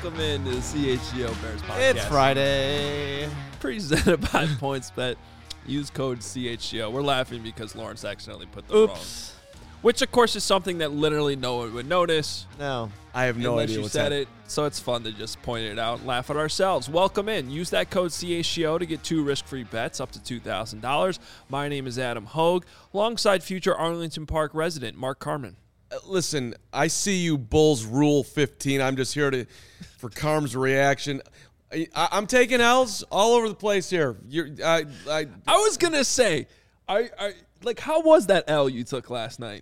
Welcome in to the CHGO Bears podcast. It's Friday. Presented by PointsBet. Use code CHGO. We're laughing because Lawrence accidentally put the wrong. Which, of course, is something that literally no one would notice. No. I have no idea what's happening. Unless you said it, so it's fun to just point it out and laugh at ourselves. Welcome in. Use that code CHGO to get 2 risk-free bets up to $2,000. My name is Adam Hogue, alongside future Arlington Park resident Mark Carman. Listen, I see you Bulls Rule 15. I'm just here for Carm's reaction. I'm taking L's all over the place here. I was going to say, how was that L you took last night?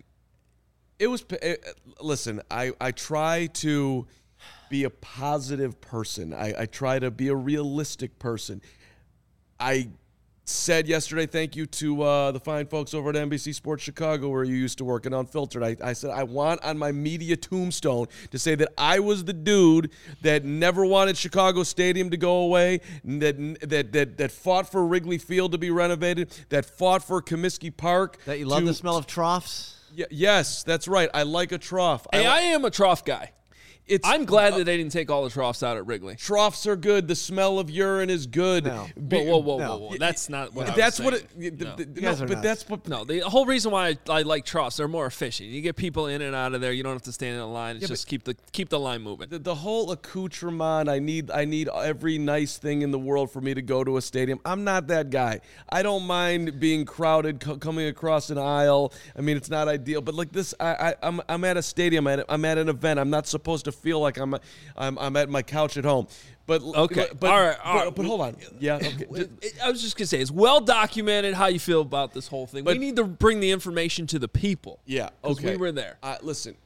Listen, I try to be a positive person. I try to be a realistic person. I said yesterday, thank you to the fine folks over at NBC Sports Chicago where you used to work and Unfiltered. I said I want on my media tombstone to say that I was the dude that never wanted Chicago Stadium to go away, that fought for Wrigley Field to be renovated, that fought for Comiskey Park. That you love the smell of troughs? Yes, that's right. I like a trough. Hey, I am a trough guy. I'm glad that they didn't take all the troughs out at Wrigley. Troughs are good. The smell of urine is good. No. Whoa. That's not what that's I was saying. No. The whole reason why I like troughs, they're more efficient. You get people in and out of there. You don't have to stand in a line. It's just keep the line moving. The whole accoutrement, I need every nice thing in the world for me to go to a stadium. I'm not that guy. I don't mind being crowded, coming across an aisle. I mean, it's not ideal, but like this, I'm at a stadium. I'm at an event. I'm not supposed to feel like I'm at my couch at home. But okay, but, all right. But hold on. Yeah, okay. I was just gonna say it's well documented how you feel about this whole thing. We need to bring the information to the people. Yeah, okay. We were there. Listen,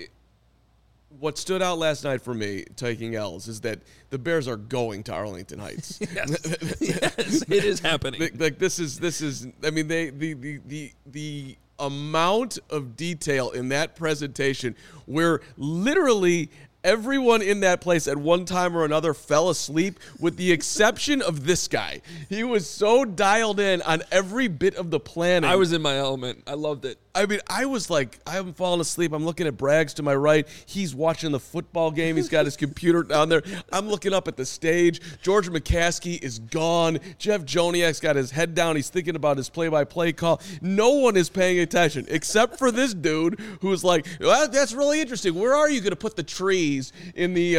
what stood out last night for me taking L's is that the Bears are going to Arlington Heights. Yes, it is happening. Like this is. I mean, the amount of detail in that presentation where literally everyone in that place at one time or another fell asleep with the exception of this guy. He was so dialed in on every bit of the planning. I was in my element. I loved it. I mean, I was like, I haven't fallen asleep. I'm looking at Braggs to my right. He's watching the football game. He's got his computer down there. I'm looking up at the stage. George McCaskey is gone. Jeff Joniak's got his head down. He's thinking about his play-by-play call. No one is paying attention except for this dude who's like, well, that's really interesting. Where are you going to put the trees in the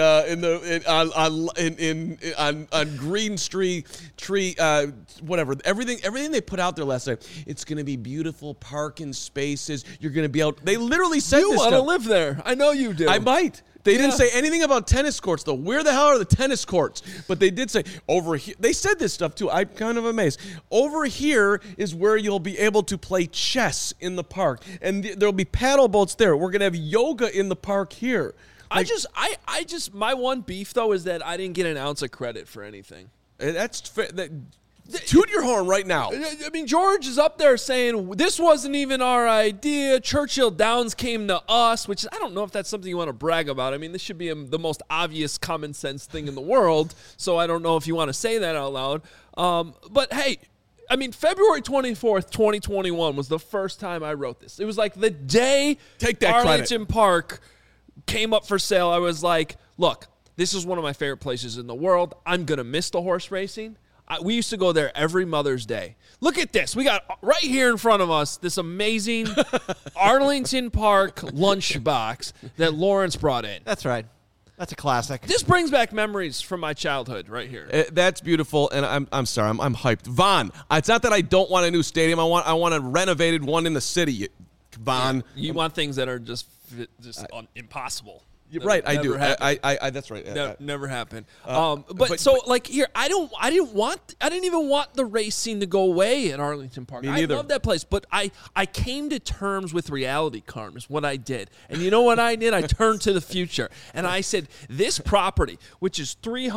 on Green Street tree whatever everything they put out there last night? It's going to be beautiful parking spaces. You're going to be out. They literally said you this want to stuff. live there. I know you do. I might. They didn't say anything about tennis courts, though. Where the hell are the tennis courts? But they did say over here. They said this stuff, too. I'm kind of amazed. Over here is where you'll be able to play chess in the park. And there'll be paddle boats there. We're going to have yoga in the park here. Like, I just, my one beef, though, is that I didn't get an ounce of credit for anything. That's fair. Toot your horn right now. I mean, George is up there saying, this wasn't even our idea. Churchill Downs came to us, which I don't know if that's something you want to brag about. I mean, this should be the most obvious common sense thing in the world, so I don't know if you want to say that out loud. But, hey, I mean, February 24th, 2021 was the first time I wrote this. It was like the day Arlington Park came up for sale. I was like, look, this is one of my favorite places in the world. I'm going to miss the horse racing. We used to go there every Mother's Day. Look at this. We got right here in front of us this amazing Arlington Park lunchbox that Lawrence brought in. That's right. That's a classic. This brings back memories from my childhood right here. That's beautiful, and I'm sorry. I'm hyped. Vaughn, it's not that I don't want a new stadium. I want a renovated one in the city. Vaughn. Yeah, you want things that are just impossible. Right, I do. I that's right. Never happened. But like here, I didn't even want the racing to go away at Arlington Park. I love that place, but I came to terms with reality, Carm, is what I did. And you know what I did? I turned to the future, and I said, this property, which is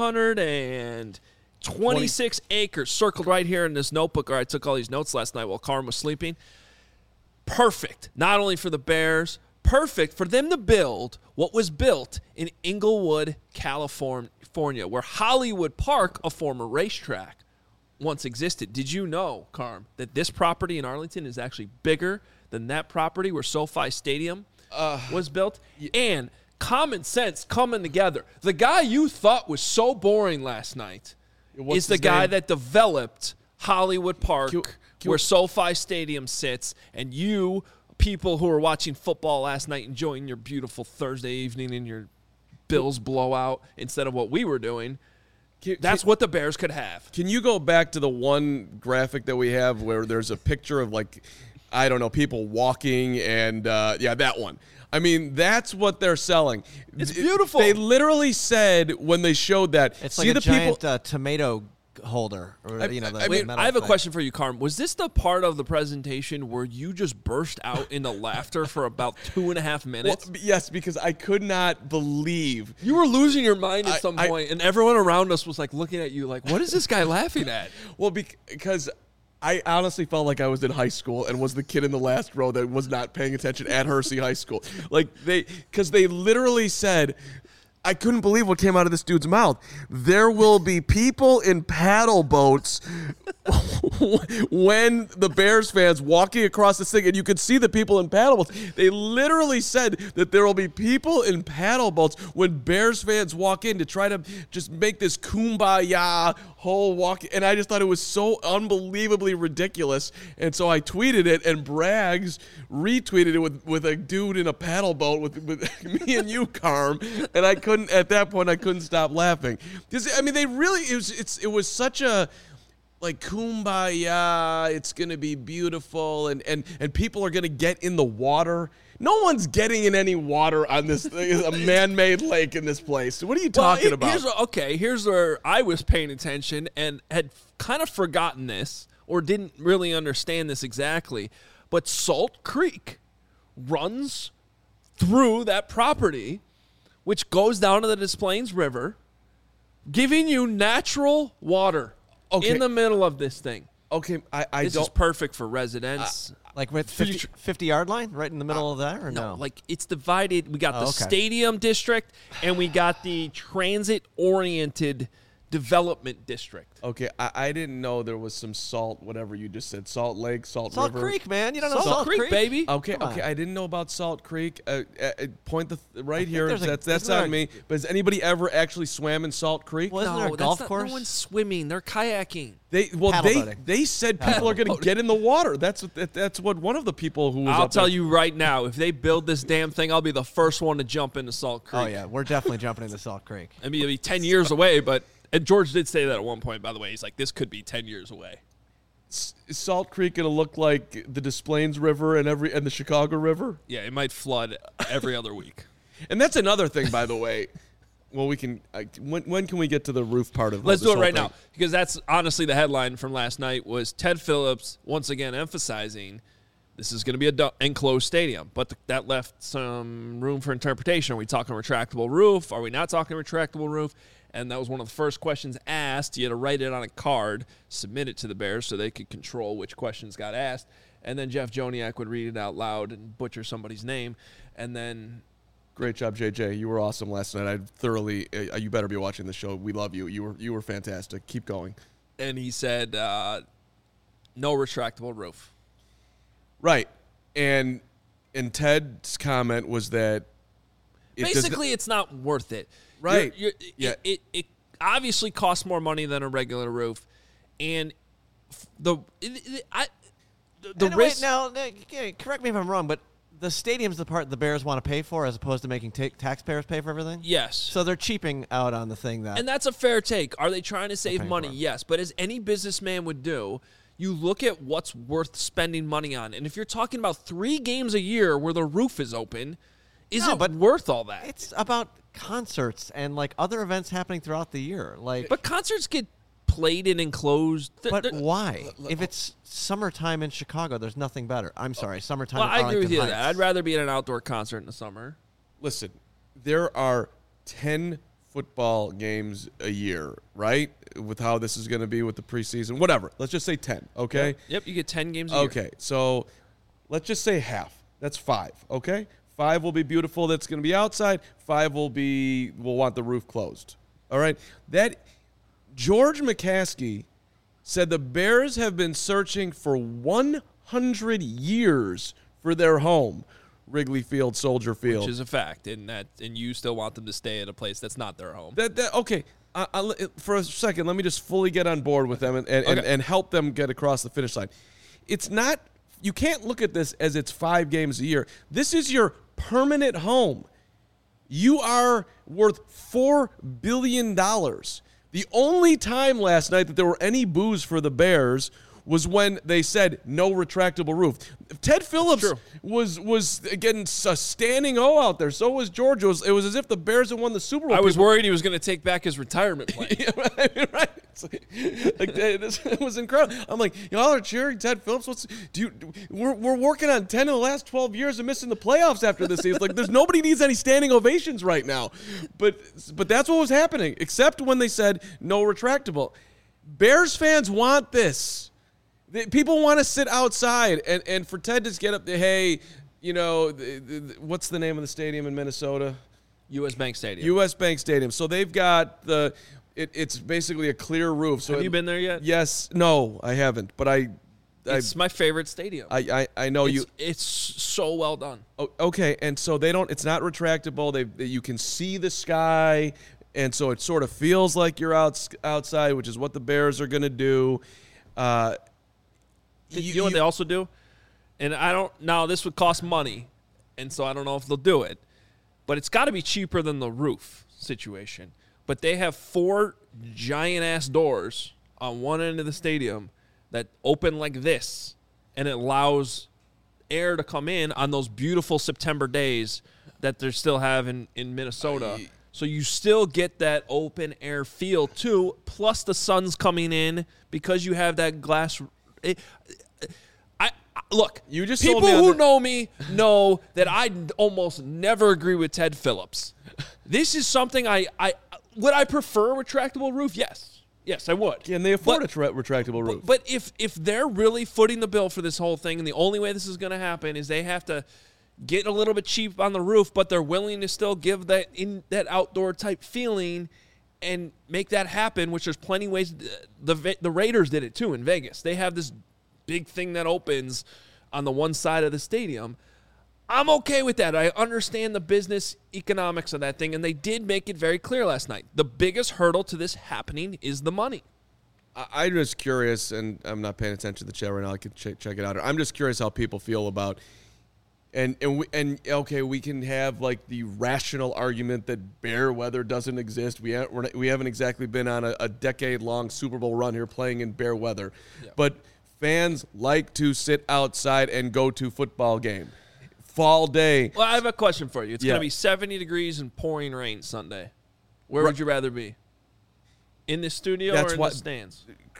326 acres, circled right here in this notebook, or I took all these notes last night while Carm was sleeping, perfect, not only for the Bears, perfect for them to build what was built in Inglewood, California, where Hollywood Park, a former racetrack, once existed. Did you know, Carm, that this property in Arlington is actually bigger than that property where SoFi Stadium was built? And common sense coming together. The guy you thought was so boring last night What's is the his guy name? that developed Hollywood Park, Q- where SoFi Stadium sits, and you people who are watching football last night enjoying your beautiful Thursday evening and your Bills blowout instead of what we were doing. That's what the Bears could have. Can you go back to the one graphic that we have where there's a picture of, like, I don't know, people walking and, that one. I mean, that's what they're selling. It's beautiful. They literally said when they showed that. It's see like a the giant people. tomato holder. Or, I mean, metal I have a thing. question for you, Carm. Was this the part of the presentation where you just burst out into laughter for about 2.5 minutes? Well, yes, because I could not believe. You were losing your mind at some I- point, and everyone around us was like looking at you like, what is this guy laughing at? Well, because I honestly felt like I was in high school and was the kid in the last row that was not paying attention at Hersey High School. Like, because they literally said, I couldn't believe what came out of this dude's mouth. There will be people in paddle boats when the Bears fans walking across this thing, and you could see the people in paddle boats. They literally said that there will be people in paddle boats when Bears fans walk in to try to just make this kumbaya whole walk. And I just thought it was so unbelievably ridiculous. And so I tweeted it, and Braggs retweeted it with a dude in a paddle boat with me and you, Carm. And at that point, I couldn't stop laughing. Because, I mean, it was such a, like, kumbaya, it's going to be beautiful, and people are going to get in the water. No one's getting in any water on this a man-made lake in this place. What are you talking about? Here's where I was paying attention and had kind of forgotten this or didn't really understand this exactly. But Salt Creek runs through that property, which goes down to the Des Plaines River, giving you natural water in the middle of this thing. Okay, This is perfect for residents. Like with 50-yard line right in the middle of that, or no? Like it's divided. We got the okay. stadium district and we got the transit-oriented development district. Okay, I didn't know there was some salt, whatever you just said. Salt Lake, Salt Salt River. Creek, man. You don't know Salt Creek, baby. Okay, Come okay. on. I didn't know about Salt Creek. Point right here. there's a- That's isn't on there a- me. But has anybody ever actually swam in Salt Creek? Well, isn't there a golf course? No one's swimming. They're kayaking. Paddle boating. They said people are going to get in the water. That's what one of the people who was I'll up tell there- you right now, if they build this damn thing, I'll be the first one to jump into Salt Creek. Oh, yeah. We're definitely jumping into Salt Creek. I mean, it'll be 10 years away, but and George did say that at one point, by the way. He's like, this could be 10 years away. Is Salt Creek going to look like the Des Plaines River and the Chicago River? Yeah, it might flood every other week. And that's another thing, by the way. Well, we can. When can we get to the roof part of? Let's this do it whole right thing? now, because that's honestly the headline from last night was Ted Phillips once again emphasizing this is going to be an enclosed stadium, but that left some room for interpretation. Are we talking retractable roof? Are we not talking retractable roof? And that was one of the first questions asked. You had to write it on a card, submit it to the Bears so they could control which questions got asked. And then Jeff Joniak would read it out loud and butcher somebody's name. And then Great job, JJ. You were awesome last night. I thoroughly. You better be watching the show. We love you. You were fantastic. Keep going. and he said no retractable roof. Right, and Ted's comment was that Basically, it's not worth it. Right. Yeah. It obviously costs more money than a regular roof, and the Anyway, risk. now, correct me if I'm wrong, but the stadium's the part the Bears want to pay for as opposed to making taxpayers pay for everything? Yes. So they're cheaping out on the thing that... And that's a fair take. Are they trying to save paying money? for it. Yes. But as any businessman would do, you look at what's worth spending money on. And if you're talking about 3 games a year where the roof is open, is it worth all that? It's about concerts and, like, other events happening throughout the year. Like, But concerts get played in enclosed. But why? If it's summertime in Chicago, there's nothing better. I'm sorry, summertime Well, in I agree with Arlington you on Heights. that. I'd rather be at an outdoor concert in the summer. Listen, there are 10 football games a year, right? With how this is going to be with the preseason, whatever. Let's just say 10, okay? Yep, you get 10 games a year. Okay, so let's just say half. That's 5, okay? 5 will be beautiful. That's going to be outside. 5 will want the roof closed. All right? George McCaskey said the Bears have been searching for 100 years for their home. Wrigley Field, Soldier Field. Which is a fact, and you still want them to stay at a place that's not their home. Okay. For a second, let me just fully get on board with them and help them get across the finish line. It's not, you can't look at this as it's 5 games a year. This is your permanent home. You are worth $4 billion. The only time last night that there were any boos for the Bears was when they said no retractable roof. Ted Phillips was getting a standing O out there. So was George. It was as if the Bears had won the Super Bowl. I was worried he was going to take back his retirement plan. Yeah, right. This was incredible. I'm like, y'all are cheering Ted Phillips. We're working on 10 of the last 12 years of missing the playoffs after this season. Like, there's nobody needs any standing ovations right now. But that's what was happening, except when they said no retractable. Bears fans want this. People want to sit outside, and for Ted to just get up there, hey, what's the name of the stadium in Minnesota? U.S. Bank Stadium. U.S. Bank Stadium. So they've got it's basically a clear roof. So have you been there yet? Yes. No, I haven't. But it's my favorite stadium. I know you. It's so well done. Okay, and so it's not retractable. You can see the sky, and so it sort of feels like you're outside, which is what the Bears are going to do. You know what they also do? And now this would cost money, and so I don't know if they'll do it. But it's got to be cheaper than the roof situation. But they have 4 giant-ass doors on one end of the stadium that open like this, and it allows air to come in on those beautiful September days that they still have in Minnesota. So you still get that open air feel, too, plus the sun's coming in because you have that glass. Look, you just people who know me know that I almost never agree with Ted Phillips. This is something would I prefer a retractable roof? Yes, I would. Can they afford a retractable roof? But if they're really footing the bill for this whole thing, and the only way this is going to happen is they have to get a little bit cheap on the roof, but they're willing to still give that outdoor type feeling and make that happen, which there's plenty of ways. The Raiders did it too in Vegas. They have this big thing that opens on the one side of the stadium. I'm okay with that. I understand the business economics of that thing, and they did make it very clear last night. The biggest hurdle to this happening is the money. I'm just curious, and I'm not paying attention to the chat right now. I could check it out. I'm just curious how people feel about. And we can have like the rational argument that bear weather doesn't exist. We haven't exactly been on a decade-long Super Bowl run here playing in bear weather, but fans like to sit outside and go to football game. Fall day. Well, I have a question for you. It's going to be 70 degrees and pouring rain Sunday. Where would you rather be? In the studio or in the stands?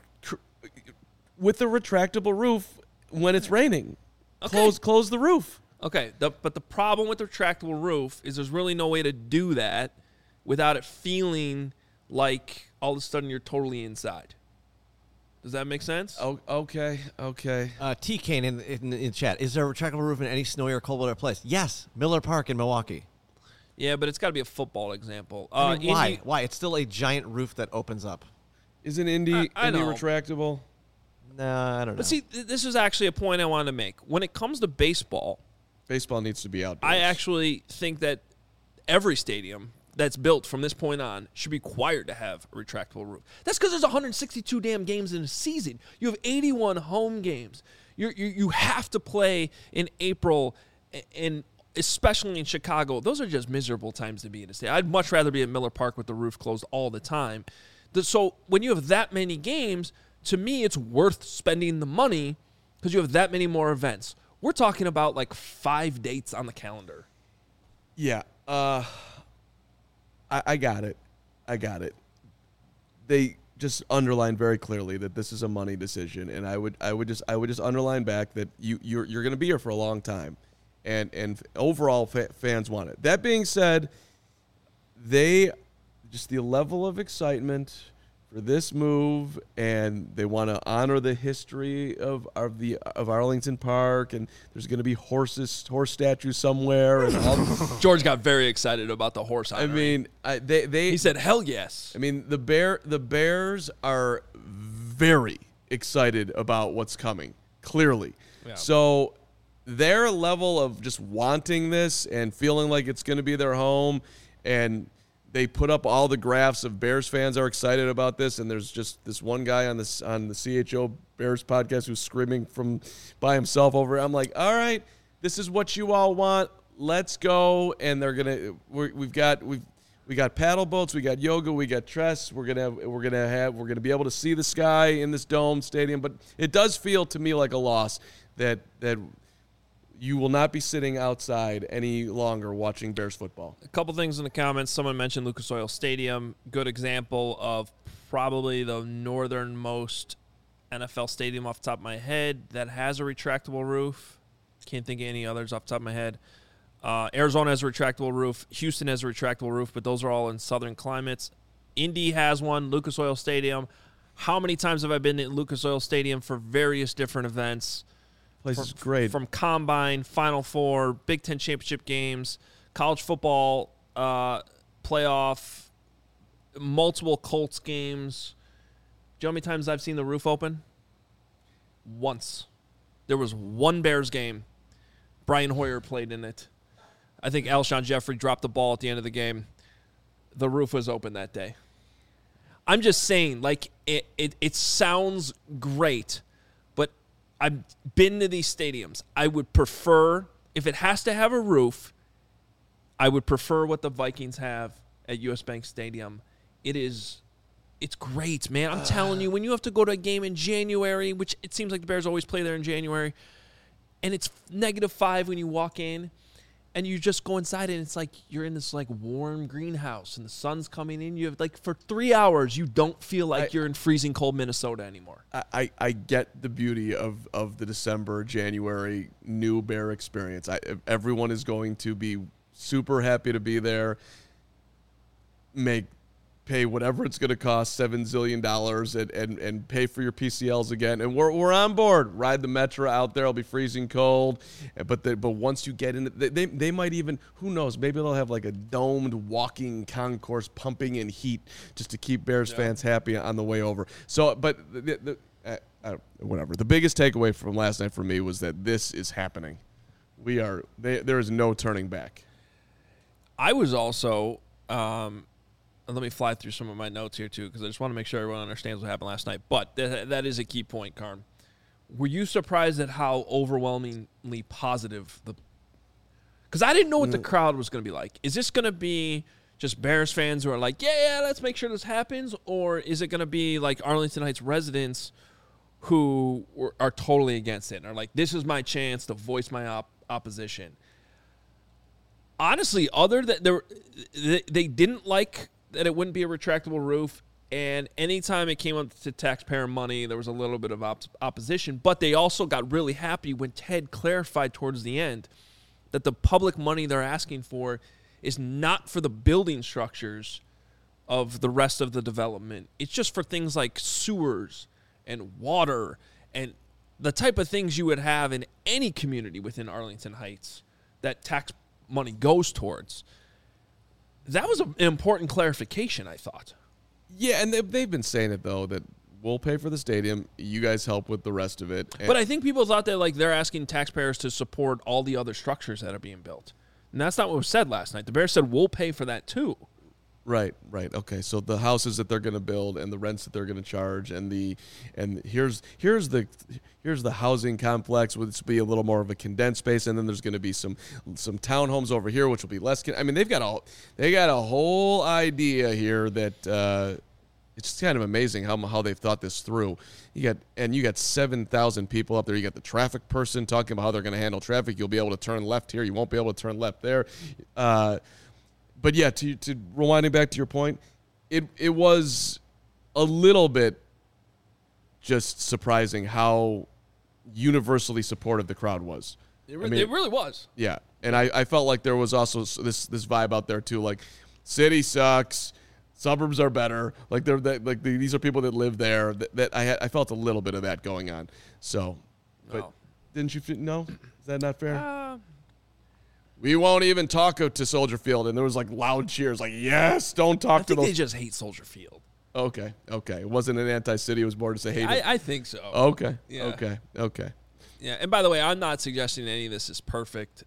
With a retractable roof when it's raining. Okay. Close the roof. Okay, but the problem with the retractable roof is there's really no way to do that without it feeling like all of a sudden you're totally inside. Does that make sense? Oh, okay. T. Kane in the chat. Is there a retractable roof in any snowy or cold weather place? Yes, Miller Park in Milwaukee. Yeah, but it's got to be a football example. I mean, why? Why? It's still a giant roof that opens up. Isn't Indy retractable? No, I don't know. But see, this is actually a point I wanted to make. When it comes to baseball needs to be outdoors. I actually think that every stadium that's built from this point on should be required to have a retractable roof. That's because there's 162 damn games in a season. You have 81 home games. You have to play in April, and especially in Chicago. Those are just miserable times to be in a stadium. I'd much rather be at Miller Park with the roof closed all the time. So when you have that many games, to me, it's worth spending the money because you have that many more events. We're talking about like 5 dates on the calendar. Yeah. I got it. They just underlined very clearly that this is a money decision, and I would just underline back that you're going to be here for a long time, and overall fans want it. That being said, the level of excitement for this move, and they want to honor the history of Arlington Park, and there's going to be horse statues somewhere. And George got very excited about the horse honoring. I mean, he said, "Hell yes!" I mean, the Bears are very excited about what's coming. Clearly, so their level of just wanting this and feeling like it's going to be their home, and they put up all the graphs of Bears fans are excited about this, and there's just this one guy on the CHO Bears podcast who's screaming from by himself over it. I'm like, all right, this is what you all want. Let's go. And they're gonna we got paddle boats, we got yoga, we got Tress. We're gonna be able to see the sky in this dome stadium. But it does feel to me like a loss that you will not be sitting outside any longer watching Bears football. A couple things in the comments. Someone mentioned Lucas Oil Stadium. Good example of probably the northernmost NFL stadium off the top of my head that has a retractable roof. Can't think of any others off the top of my head. Arizona has a retractable roof. Houston has a retractable roof, but those are all in southern climates. Indy has one, Lucas Oil Stadium. How many times have I been at Lucas Oil Stadium for various different events? Place is great. From Combine, Final Four, Big Ten championship games, college football playoff, multiple Colts games. Do you know how many times I've seen the roof open? Once. There was one Bears game. Brian Hoyer played in it. I think Alshon Jeffrey dropped the ball at the end of the game. The roof was open that day. I'm just saying, like, it sounds great, but I've been to these stadiums. I would prefer, if it has to have a roof, I would prefer what the Vikings have at US Bank Stadium. It's great, man. I'm telling you, when you have to go to a game in January, which it seems like the Bears always play there in January, and it's -5 when you walk in, and you just go inside, and it's like you're in this like warm greenhouse, and the sun's coming in. You have like for 3 hours, you don't feel like you're in freezing cold Minnesota anymore. I get the beauty of the December, January new Bear experience. Everyone is going to be super happy to be there. Pay whatever it's going to cost, $7 zillion, and pay for your PCLs again. And we're on board. Ride the Metro out there. It'll be freezing cold. But once you get in, they might even, who knows, maybe they'll have like a domed walking concourse pumping in heat just to keep Bears fans happy on the way over. So, but whatever. The biggest takeaway from last night for me was that this is happening. There is no turning back. I was also... let me fly through some of my notes here, too, because I just want to make sure everyone understands what happened last night. But that is a key point, Carm. Were you surprised at how overwhelmingly positive because I didn't know what the crowd was going to be like. Is this going to be just Bears fans who are like, yeah, let's make sure this happens? Or is it going to be like Arlington Heights residents who are totally against it and are like, this is my chance to voice my opposition? Honestly, other than they didn't like that it wouldn't be a retractable roof, and anytime it came up to taxpayer money, there was a little bit of opposition, but they also got really happy when Ted clarified towards the end that the public money they're asking for is not for the building structures of the rest of the development. It's just for things like sewers and water and the type of things you would have in any community within Arlington Heights that tax money goes towards. That was an important clarification, I thought. Yeah, and they've been saying it, though, that we'll pay for the stadium. You guys help with the rest of it. But I think people thought that they're asking taxpayers to support all the other structures that are being built. And that's not what was said last night. The Bears said we'll pay for that, too. Right. Okay, so the houses that they're going to build and the rents that they're going to charge and here's the housing complex, which will be a little more of a condensed space, and then there's going to be some townhomes over here, which will be less. I mean, they got a whole idea here that it's just kind of amazing how they've thought this through. You got 7,000 people up there. You got the traffic person talking about how they're going to handle traffic. You'll be able to turn left here. You won't be able to turn left there. But yeah, to rewinding back to your point, it was a little bit just surprising how universally supportive the crowd was. It really was. Yeah, and I felt like there was also this vibe out there too, like city sucks, suburbs are better. Like these are people that live there. That I felt a little bit of that going on. So, but didn't you feel? No, is that not fair? We won't even talk to Soldier Field, and there was like loud cheers, like yes, don't talk to those. I think they just hate Soldier Field. Okay. It wasn't an anti-city. It was more to say hate it. I think so. Okay. Yeah. Okay. Yeah, and by the way, I'm not suggesting any of this is perfect.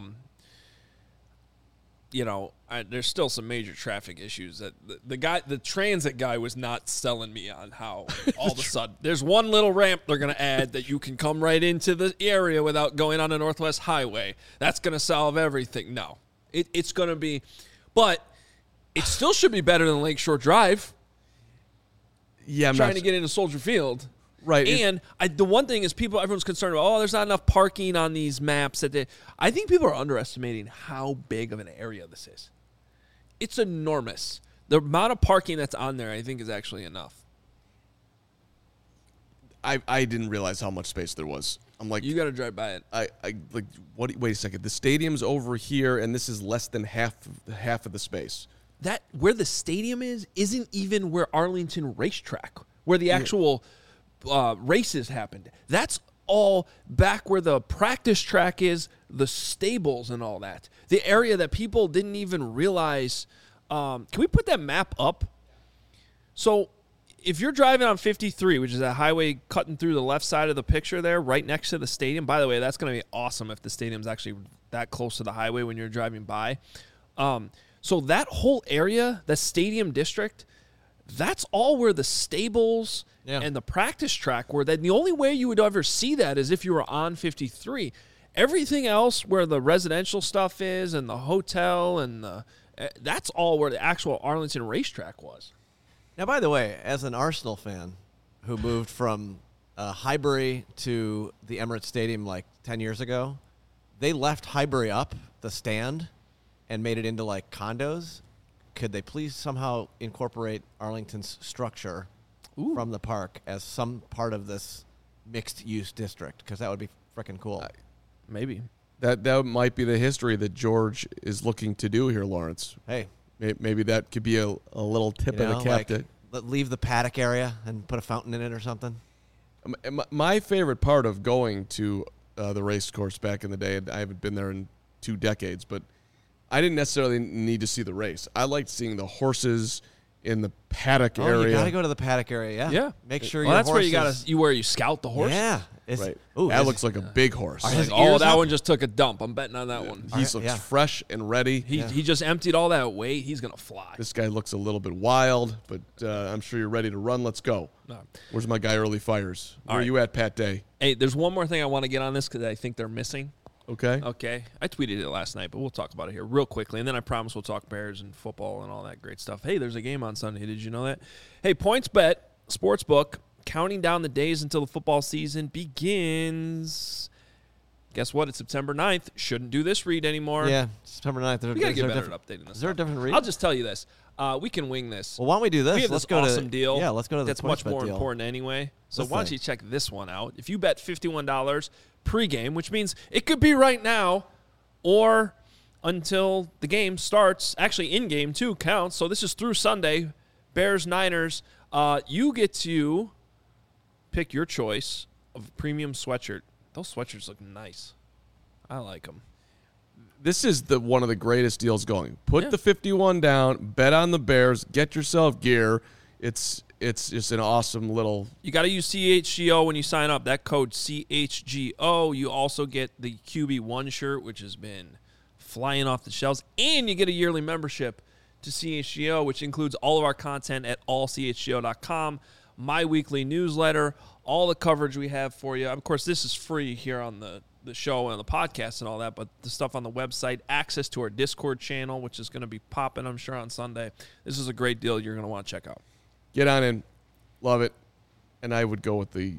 There's still some major traffic issues that the transit guy was not selling me on how all of a sudden there's one little ramp they're going to add that you can come right into the area without going on the Northwest Highway. That's going to solve everything. No, it's going to be, but it still should be better than Lakeshore Drive. Yeah, I'm trying to get into Soldier Field. Right. And the one thing is everyone's concerned about, there's not enough parking on these maps. I think people are underestimating how big of an area this is. It's enormous. The amount of parking that's on there, I think, is actually enough. I didn't realize how much space there was. I'm like, you got to drive by it. I like what? Wait a second. The stadium's over here, and this is less than half of the space. That where the stadium isn't even where Arlington Racetrack, where the actual races happened. That's all back where the practice track is, the stables and all that. The area that people didn't even realize. Can we put that map up? So if you're driving on 53, which is a highway cutting through the left side of the picture there, right next to the stadium. By the way, that's going to be awesome if the stadium's actually that close to the highway when you're driving by. So that whole area, the stadium district, that's all where the stables and the practice track were. Then the only way you would ever see that is if you were on 53. Everything else where the residential stuff is and the hotel and that's all where the actual Arlington Racetrack was. Now, by the way, as an Arsenal fan who moved from Highbury to the Emirates Stadium like 10 years ago, they left Highbury up, the stand, and made it into like condos. Could they please somehow incorporate Arlington's structure from the park as some part of this mixed-use district? Because that would be freaking cool. Maybe. That might be the history that George is looking to do here, Lawrence. Hey. Maybe that could be a little tip of the cap. Leave the paddock area and put a fountain in it or something. My favorite part of going to the race course back in the day, I haven't been there in 2 decades, but I didn't necessarily need to see the race. I liked seeing the horses in the paddock area. You got to go to the paddock area, yeah. Make sure that's where you scout the horse. Yeah. Right. That looks like a big horse. That one just took a dump. I'm betting on that one. He looks fresh and ready. He just emptied all that weight. He's going to fly. This guy looks a little bit wild, but I'm sure you're ready to run. Let's go. No. Where's my guy Early Fires? Where are you at, Pat Day? Hey, there's one more thing I want to get on this because I think they're missing. Okay. I tweeted it last night, but we'll talk about it here real quickly, and then I promise we'll talk Bears and football and all that great stuff. Hey, there's a game on Sunday. Did you know that? Hey, PointsBet Sportsbook, counting down the days until the football season begins. Guess what? It's September 9th. Shouldn't do this read anymore. Yeah, September 9th. We got to get better at updating this. Is there a different read? I'll just tell you this. We can wing this. Well, why don't we do this? We have let's this go awesome deal. Yeah, let's go to the That's much more deal. important anyway. So why don't you check this one out? If you bet $51 pregame, which means it could be right now or until the game starts. Actually, in-game, too, counts. So this is through Sunday. Bears, Niners. You get to pick your choice of a premium sweatshirt. Those sweatshirts look nice. I like them. This is one of the greatest deals going. Put the 51 down, bet on the Bears, get yourself gear. It's just an awesome little. You got to use CHGO when you sign up. That code CHGO. You also get the QB1 shirt, which has been flying off the shelves, and you get a yearly membership to CHGO, which includes all of our content at allchgo.com, my weekly newsletter, all the coverage we have for you. Of course, this is free here on the show and the podcast and all that, but the stuff on the website, access to our Discord channel, which is going to be popping, I'm sure, on Sunday. This is a great deal you're going to want to check out. Get on in. Love it. And I would go with the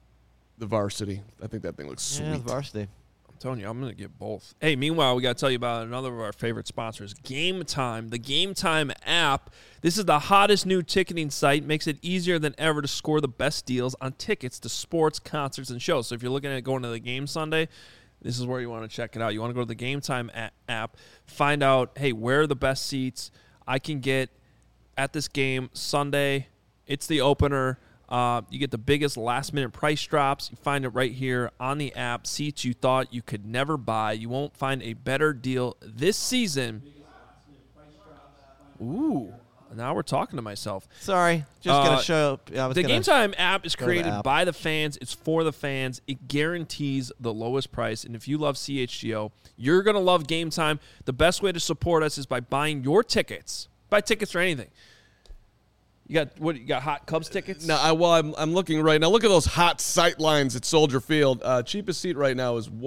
varsity. I think that thing looks sweet. Yeah, the varsity. I'm telling you, I'm going to get both. Hey, meanwhile, we got to tell you about another of our favorite sponsors, Game Time, the Game Time app. This is the hottest new ticketing site. Makes it easier than ever to score the best deals on tickets to sports, concerts, and shows. So if you're looking at going to the game Sunday, this is where you want to check it out. You want to go to the Game Time app, find out, hey, where are the best seats I can get at this game Sunday. It's the opener. You get the biggest last-minute price drops. You find it right here on the app. Seats you thought you could never buy. You won't find a better deal this season. Ooh, Now we're talking to myself. Sorry, just gonna show. The Game Time app is go to the created app. by the fans. It's for the fans. It guarantees the lowest price. And if you love CHGO, you're gonna love Game Time. The best way to support us is by buying your tickets. Buy tickets for anything. You got what? You got hot Cubs tickets? No, I'm looking right now. Look at those hot sight lines at Soldier Field. Cheapest seat right now is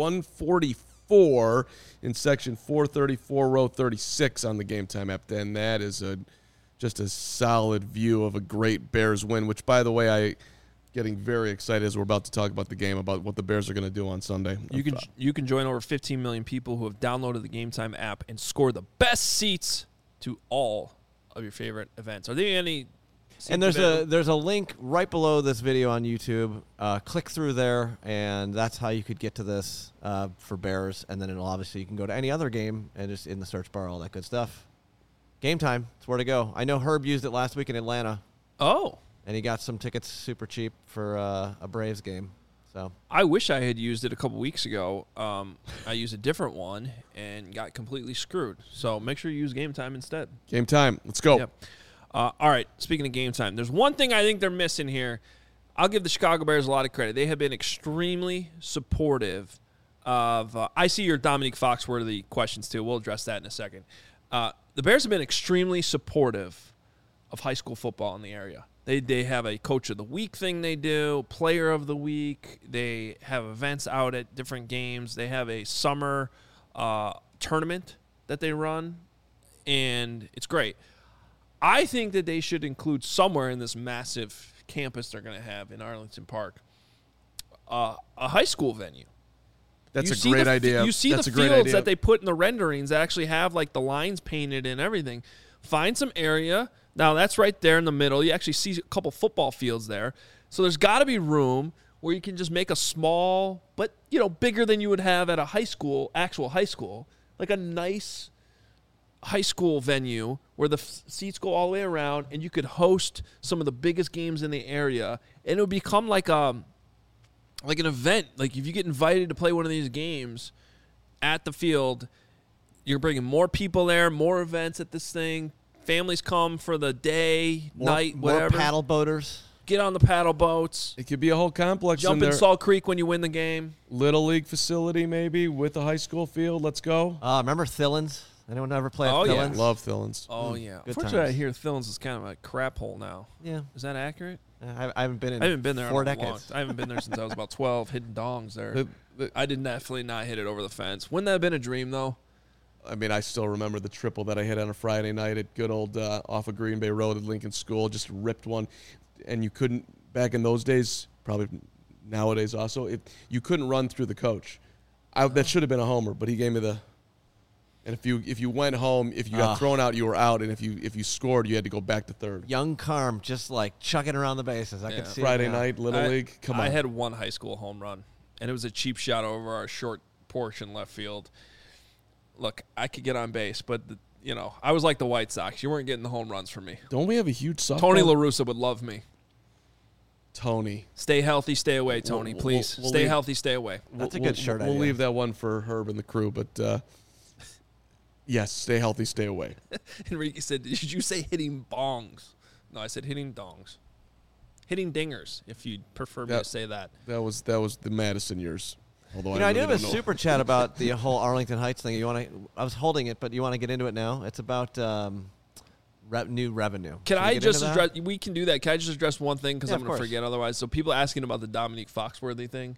$144 in section 434, row 36 on the Game Time app. And that is just a solid view of a great Bears win. Which, by the way, I getting very excited as we're about to talk about the game, about what the Bears are going to do on Sunday. You can join over 15 million people who have downloaded the Game Time app and score the best seats to all of your favorite events. Are there any? And there's a link right below this video on YouTube. Click through there, and that's how you could get to this for Bears. And then it'll obviously you can go to any other game and just in the search bar, all that good stuff. Game Time, it's where to go. I know Herb used it last week in Atlanta. Oh. And he got some tickets super cheap for a Braves game. So I wish I had used it a couple weeks ago. I used a different one and got completely screwed. So make sure you use Game Time instead. Game Time. Let's go. Yep. All right, speaking of Game Time, there's one thing I think they're missing here. I'll give the Chicago Bears a lot of credit. They have been extremely supportive of I see your Dominique Foxworthy questions, too. We'll address that in a second. The Bears have been extremely supportive of high school football in the area. They have a Coach of the Week thing they do, Player of the Week. They have events out at different games. They have a summer tournament that they run, and it's great. I think that they should include somewhere in this massive campus they're going to have in Arlington Park a high school venue. That's a great idea. You see the fields that they put in the renderings that actually have like the lines painted and everything. Find some area. Now, that's right there in the middle. You actually see a couple football fields there. So there's got to be room where you can just make a small, but, bigger than you would have at a actual high school, like a nice high school venue where the seats go all the way around and you could host some of the biggest games in the area, and it would become like an event. Like if you get invited to play one of these games at the field, you're bringing more people there, more events at this thing. Families come for the day, night, whatever. More paddle boaters. Get on the paddle boats. It could be a whole complex. Jump in Salt Creek when you win the game. Little league facility maybe with a high school field. Let's go. Remember Thillins? Anyone ever play at Oh, yeah. Thillins? Love Thillins. Oh, yeah. Good Unfortunately, I times. hear Thillins is kind of a crap hole now. Yeah. Is that accurate? I haven't been in I haven't been there 4 in a long decades. I haven't been there since I was about 12, hitting dongs there. I did definitely not hit it over the fence. Wouldn't that have been a dream, though? I mean, I still remember the triple that I hit on a Friday night at good old off of Green Bay Road at Lincoln School. Just ripped one. And you couldn't, back in those days, probably nowadays also, you couldn't run through the coach. That should have been a homer, but he gave me the... And if you went home, if you got thrown out, you were out. And if you scored, you had to go back to third. Young Carm just like chucking around the bases. I could see it Friday now. night, Little League. Come on. I had one high school home run, and it was a cheap shot over our short portion left field. Look, I could get on base, but I was like the White Sox. You weren't getting the home runs from me. Don't we have a huge softball? Tony La Russa would love me. Tony. Stay healthy, stay away, Tony. Please, we'll stay leave- healthy, stay away. That's a good shirt We'll idea. leave that one for Herb and the crew, but yes, stay healthy, stay away. Enrique said, "Did you say hitting bongs?" No, I said hitting dongs. Hitting dingers, if you'd prefer me to say that. That was the Madison years. Although I I do really have a don't know. super chat about the whole Arlington Heights thing. I was holding it, but you want to get into it now? It's about new revenue. Can Should we I get just into that? address? We can do that. Can I just address one thing because Yeah, I'm of going to course. forget otherwise? So people asking about the Dominique Foxworthy thing.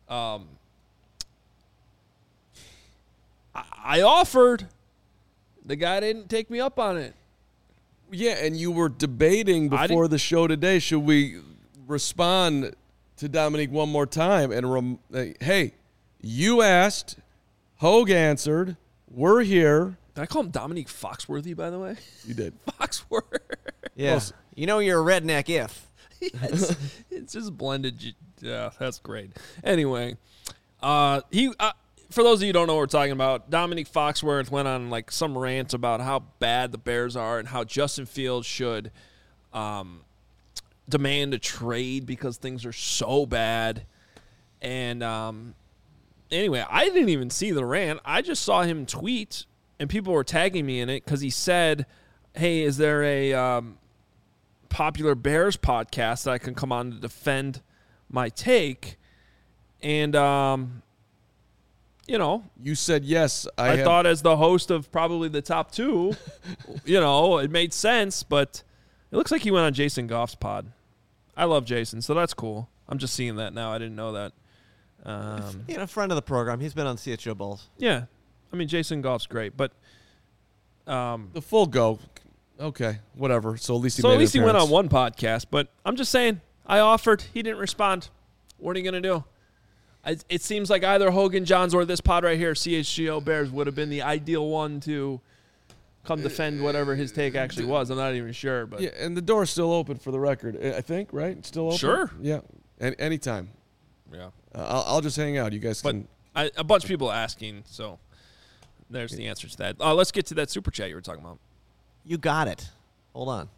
I offered. The guy didn't take me up on it. Yeah, and you were debating before the show today, should we respond to Dominique one more time? And hey, you asked, Hogue answered, we're here. Did I call him Dominique Foxworthy, by the way? You did. Foxworth. Yeah. Close. You're a redneck if. It's just blended. Yeah, that's great. Anyway, for those of you who don't know what we're talking about, Dominique Foxworth went on like some rant about how bad the Bears are and how Justin Fields should demand a trade because things are so bad. And anyway, I didn't even see the rant. I just saw him tweet, and people were tagging me in it because he said, hey, is there a popular Bears podcast that I can come on to defend my take? And, You said yes. I thought as the host of probably the top two, it made sense, but it looks like he went on Jason Goff's pod. I love Jason, so that's cool. I'm just seeing that now. I didn't know that. A friend of the program. He's been on CHO Bulls. Yeah. I mean, Jason Goff's great, but the full go. Okay, whatever. So at least he went on one podcast, but I'm just saying, I offered. He didn't respond. What are you going to do? It seems like either Hogan Johns or this pod right here, CHGO Bears, would have been the ideal one to come defend whatever his take actually was. I'm not even sure. But yeah, and the door's still open for the record, I think, right? It's still open? Sure. Yeah, anytime. Yeah. I'll just hang out. You guys can. A bunch of people asking, so there's the answer to that. Let's get to that super chat you were talking about. You got it. Hold on.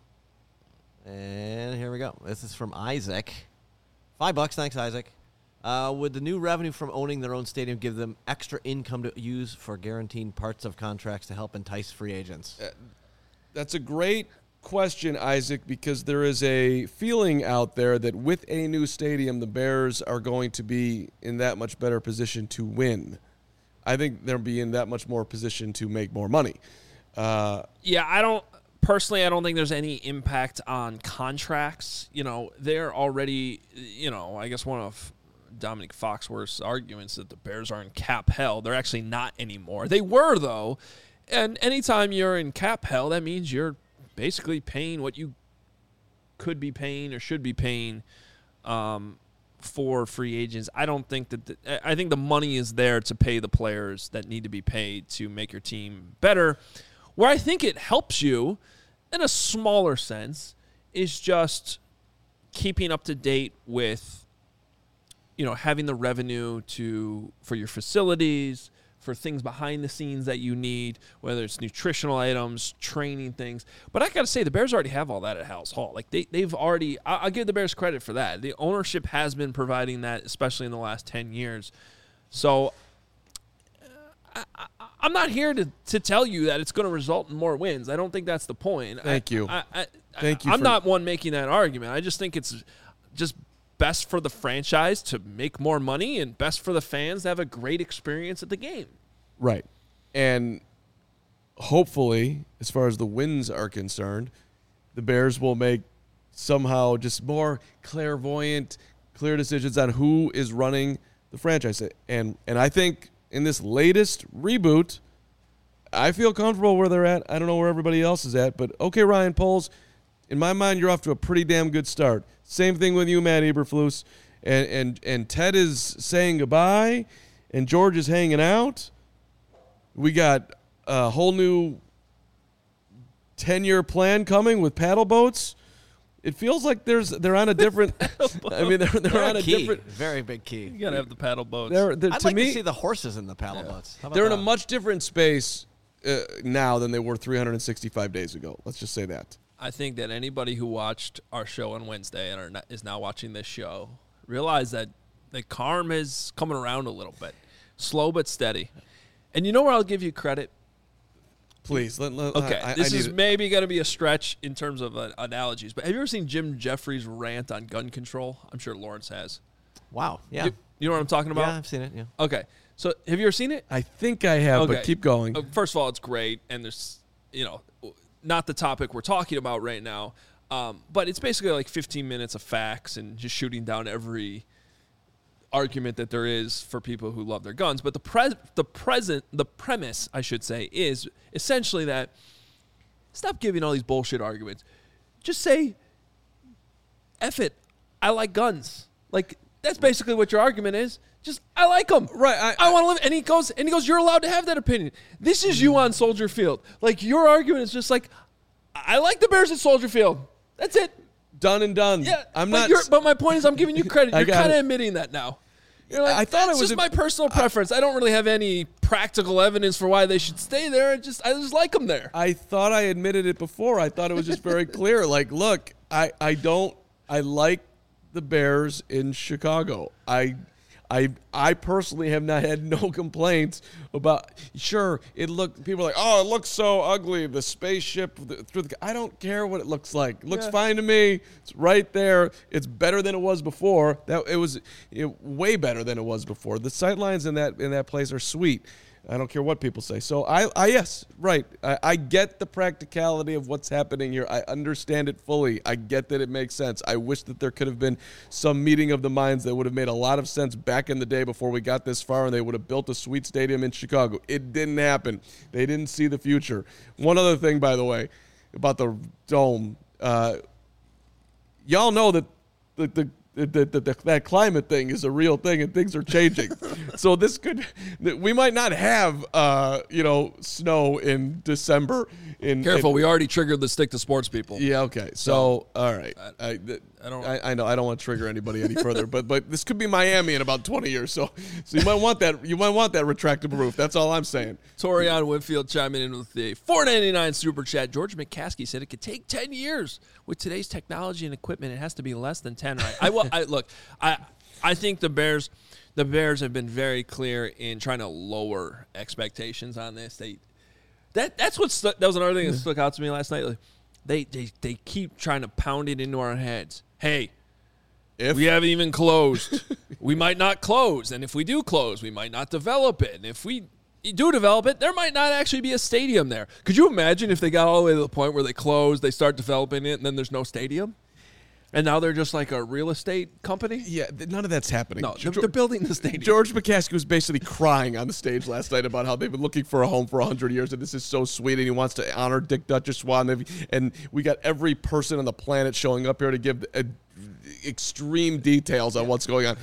And here we go. This is from Isaac. $5. Thanks, Isaac. Would the new revenue from owning their own stadium give them extra income to use for guaranteeing parts of contracts to help entice free agents? That's a great question, Isaac, because there is a feeling out there that with a new stadium, the Bears are going to be in that much better position to win. I think they'll be in that much more position to make more money. I don't think there's any impact on contracts. They're already, I guess one of Dominic Foxworth's arguments that the Bears are in cap hell. They're actually not anymore. They were, though. And anytime you're in cap hell, that means you're basically paying what you could be paying or should be paying for free agents. I don't think that I think the money is there to pay the players that need to be paid to make your team better. Where I think it helps you in a smaller sense is just keeping up to date with having the revenue for your facilities, for things behind the scenes that you need, whether it's nutritional items, training things. But I got to say, the Bears already have all that at House Hall. Like they've already, I'll give the Bears credit for that. The ownership has been providing that, especially in the last 10 years. So I'm not here to tell you that it's going to result in more wins. I don't think that's the point. Thank you. I'm not one making that argument. I just think it's just best for the franchise to make more money and best for the fans to have a great experience at the game. Right. And hopefully, as far as the wins are concerned, the Bears will make somehow just more clairvoyant, clear decisions on who is running the franchise. And I think in this latest reboot, I feel comfortable where they're at. I don't know where everybody else is at, but okay, Ryan Poles, in my mind, you're off to a pretty damn good start. Same thing with you, Matt Eberflus. And Ted is saying goodbye, and George is hanging out. We got a whole new 10-year plan coming with paddle boats. It feels like they're on a different. I mean, they're on a different, very big key. You gotta have the paddle boats. I'd like to see the horses in the paddle boats. How about they're that? in a much different space now than they were 365 days ago. Let's just say that. I think that anybody who watched our show on Wednesday and is now watching this show realize that the Carm is coming around a little bit, slow but steady. And you know where I'll give you credit? Please. Okay, this is maybe going to be a stretch in terms of analogies, but have you ever seen Jim Jeffries rant on gun control? I'm sure Lawrence has. Wow, yeah. You know what I'm talking about? Yeah, I've seen it, yeah. Okay, so have you ever seen it? I think I have, but keep going. First of all, it's great, and there's, not the topic we're talking about right now, but it's basically like 15 minutes of facts and just shooting down every argument that there is for people who love their guns. But the premise, I should say, is essentially that stop giving all these bullshit arguments. Just say, F it, I like guns. Like, that's basically what your argument is. Just, I like them. Right. I want to live. And he goes, you're allowed to have that opinion. This is you on Soldier Field. Like, your argument is just like, I like the Bears at Soldier Field. That's it. Done and done. Yeah. But but my point is, I'm giving you credit. You're kind of admitting that now. You're like, I thought it's just my personal preference. I don't really have any practical evidence for why they should stay there. I just like them there. I thought I admitted it before. I thought it was just very clear. Like, look, I like the Bears in Chicago. I I personally have not had no complaints about. Sure, people are like, oh, it looks so ugly. The spaceship through the. I don't care what it looks like. It looks fine to me. It's right there. It's better than it was before. It was way better than it was before. The sightlines in that place are sweet. I don't care what people say. So yes, right. I get the practicality of what's happening here. I understand it fully. I get that it makes sense. I wish that there could have been some meeting of the minds that would have made a lot of sense back in the day before we got this far, and they would have built a sweet stadium in Chicago. It didn't happen. They didn't see the future. One other thing, by the way, about the dome. Y'all know that that climate thing is a real thing and things are changing. So we might not have, snow in December. Careful, we already triggered the stick to sports people. Yeah, okay. So all right. I know I don't want to trigger anybody any further, but this could be Miami in about 20 years. So you might want that retractable roof. That's all I'm saying. Torian Whitfield chiming in with the $4.99 super chat. George McCaskey said it could take 10 years. With today's technology and equipment, it has to be less than 10, right? I think the Bears have been very clear in trying to lower expectations on this. That was another thing that stuck out to me last night. They keep trying to pound it into our heads. Hey, if we haven't even closed, we might not close, and if we do close, we might not develop it, and if we do develop it, there might not actually be a stadium there. Could you imagine if they got all the way to the point where they close, they start developing it, and then there's no stadium? And now they're just like a real estate company? Yeah, none of that's happening. No, they're building the stadium. George McCaskey was basically crying on the stage last night about how they've been looking for a home for 100 years, and this is so sweet, and he wants to honor Dick Duchessois, and we got every person on the planet showing up here to give extreme details on what's going on.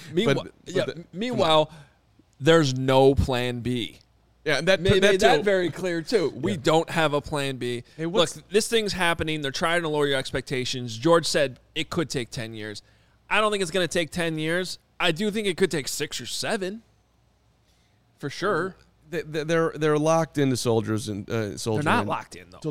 Meanwhile, there's no plan B. Yeah, and made that very clear, too. We don't have a plan B. Hey, look, this thing's happening. They're trying to lower your expectations. George said it could take 10 years. I don't think it's going to take 10 years. I do think it could take 6 or 7, for sure. They're locked into soldiers and soldiers. They're not locked in, though. Till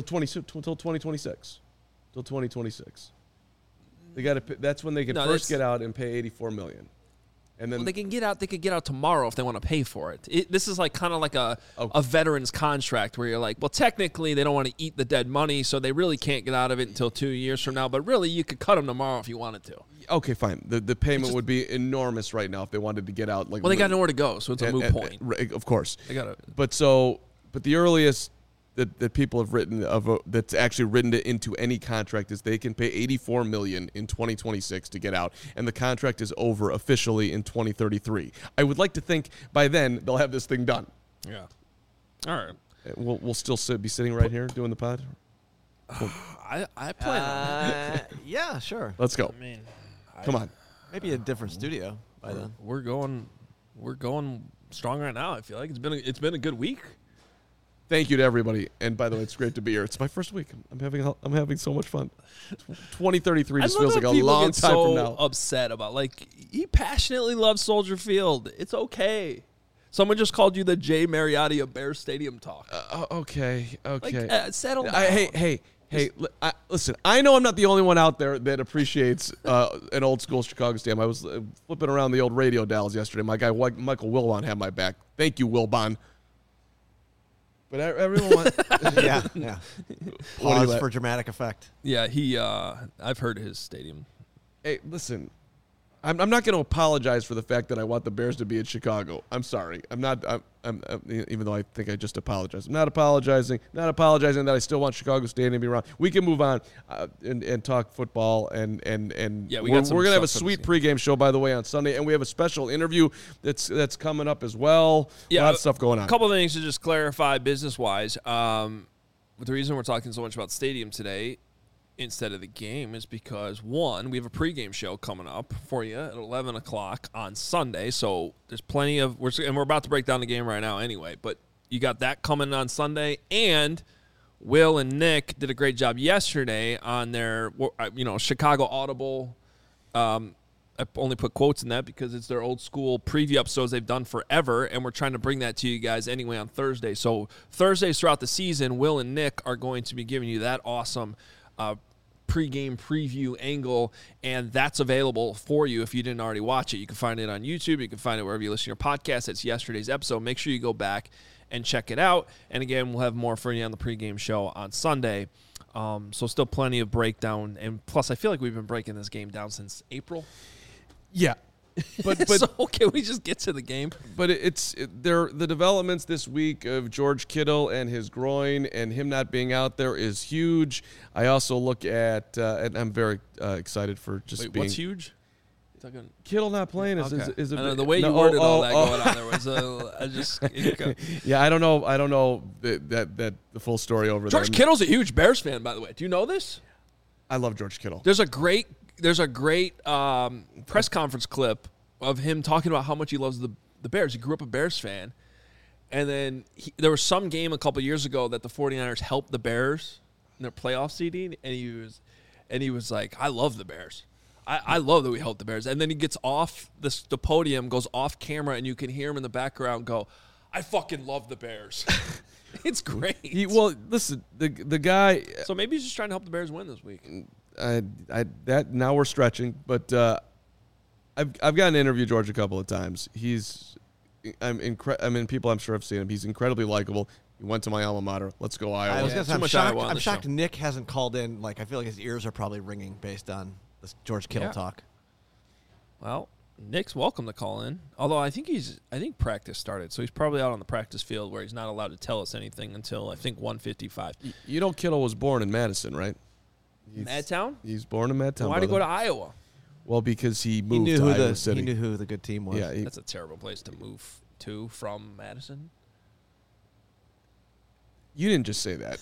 2026. Till 2026. They got to. That's when they can first get out and pay $84 million. And then they can get out. They could get out tomorrow if they want to pay for it. This is like kind of like a veteran's contract where you're like, well, technically they don't want to eat the dead money, so they really can't get out of it until 2 years from now. But really, you could cut them tomorrow if you wanted to. Okay, fine. The payment would be enormous right now if they wanted to get out. Well, they got nowhere to go, so it's a moot point. Of course, they got it. But the earliest that people have written that's actually written it into any contract is they can pay $84 million in 2026 to get out, and the contract is over officially in 2033. I would like to think by then they'll have this thing done. Yeah. All right. We'll still be sitting right here doing the pod. I plan on it. Yeah, sure. Let's go. Come on. Maybe a different studio by then. We're going strong right now. I feel like it's been a good week. Thank you to everybody, and by the way, it's great to be here. It's my first week. I'm having so much fun. 2033 just feels like a long time from now. Upset about he passionately loves Soldier Field. It's okay. Someone just called you the Jay Mariotti of Bears Stadium talk. Okay. Settle down. Hey. Listen, I know I'm not the only one out there that appreciates an old school Chicago stadium. I was flipping around the old radio dials yesterday. My guy Michael Wilbon had my back. Thank you, Wilbon. But everyone wants... Yeah. Pause for dramatic effect. Yeah, I've heard his stadium. Hey, listen, I'm not going to apologize for the fact that I want the Bears to be in Chicago. I'm sorry. I'm not... even though I think I just apologized. I'm not apologizing. Not apologizing that I still want Chicago Stadium to be around. We can move on and talk football and yeah, we're going to have a sweet pregame show, by the way, on Sunday, and we have a special interview that's coming up as well. Yeah, a lot of stuff going on. A couple of things to just clarify business-wise. The reason we're talking so much about stadium today instead of the game is because, one, we have a pregame show coming up for you at 11 o'clock on Sunday, so there's plenty of and we're about to break down the game right now anyway, but you got that coming on Sunday, and Will and Nick did a great job yesterday on their Chicago Audible. I only put quotes in that because it's their old school preview episodes they've done forever, and we're trying to bring that to you guys anyway on Thursday. So Thursdays throughout the season, Will and Nick are going to be giving you that awesome pregame preview angle, and that's available for you if you didn't already watch it. You can find it on YouTube. You can find it wherever you listen to your podcast. It's yesterday's episode. Make sure you go back and check it out. And again, we'll have more for you on the pregame show on Sunday. So still plenty of breakdown. And plus, I feel like we've been breaking this game down since April. Yeah. But so can we just get to the game? But the developments this week of George Kittle and his groin and him not being out there is huge. I also look at and I'm very excited for just being. What's huge? Kittle not playing is the way you worded all that going on there was I just yeah, I don't know that the full story over there. George Kittle's a huge Bears fan, by the way. Do you know this? I love George Kittle. There's a great press conference clip of him talking about how much he loves the Bears. He grew up a Bears fan, and then there was some game a couple years ago that the 49ers helped the Bears in their playoff seeding, and he was like, I love the Bears. I love that we helped the Bears. And then he gets off the podium, goes off camera, and you can hear him in the background go, I fucking love the Bears. It's great. Well, listen, the guy. So maybe he's just trying to help the Bears win this week. That now we're stretching, but I've gotten to interview George a couple of times. People I'm sure have seen him. He's incredibly likable. He went to my alma mater. Let's go Iowa. I was gonna say, too much I'm Iowa on the shocked show. Nick hasn't called in. Like, I feel like his ears are probably ringing based on this George Kittle talk. Well, Nick's welcome to call in. Although I think practice started, so he's probably out on the practice field where he's not allowed to tell us anything until I think 1:55. You know, Kittle was born in Madison, right? Madtown? He's born in Madtown. Why did he go to Iowa? Well, because he moved to Iowa City. He knew who the good team was. Yeah, that's a terrible place to move to from Madison. You didn't just say that.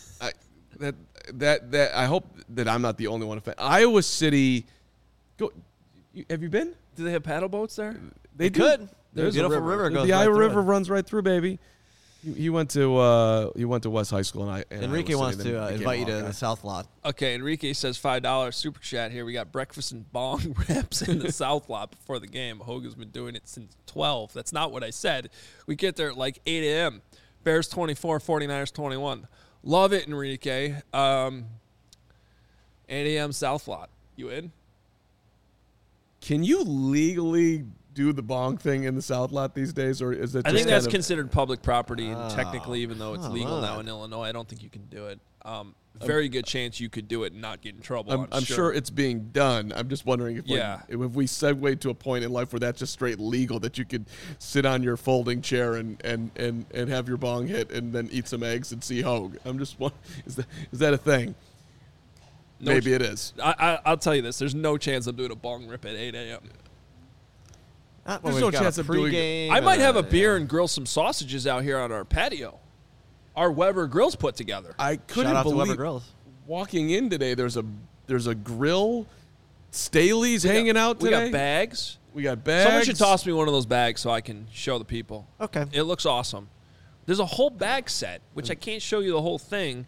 I hope that I'm not the only one. Iowa City. Have you been? Do they have paddle boats there? They could. There's a beautiful river goes the right Iowa through River it. runs right through, baby. He went to West High School, and Enrique Iowa wants City, to then became invite you a to Hawkeye. the South Lot. Okay, Enrique says $5 super chat here. We got breakfast and bong rips in the South Lot before the game. Hogan's been doing it since 12. That's not what I said. We get there at like 8 a.m. Bears 24, 49ers 21. Love it, Enrique. 8 a.m. South Lot. You in? Can you legally do the bong thing in the South Lot these days, or is it? I just think that's kind of, considered public property, and technically, even though it's legal now in Illinois, I don't think you can do it. Very good chance you could do it and not get in trouble. I'm sure it's being done. I'm just wondering if if we segue to a point in life where that's just straight legal, that you could sit on your folding chair and have your bong hit and then eat some eggs and see Hogue. I'm just wondering, is that a thing? No Maybe it is. I'll tell you this. There's no chance I'm doing a bong rip at 8 a.m. There's no chance of doing it. I might have a beer and grill some sausages out here on our patio. Our Weber Grills put together. I Shout couldn't out to Weber believe Grills. walking in today. There's a grill. Staley's hanging out today. We got bags. We got bags. Someone should toss me one of those bags so I can show the people. Okay. It looks awesome. There's a whole bag set, which I can't show you the whole thing.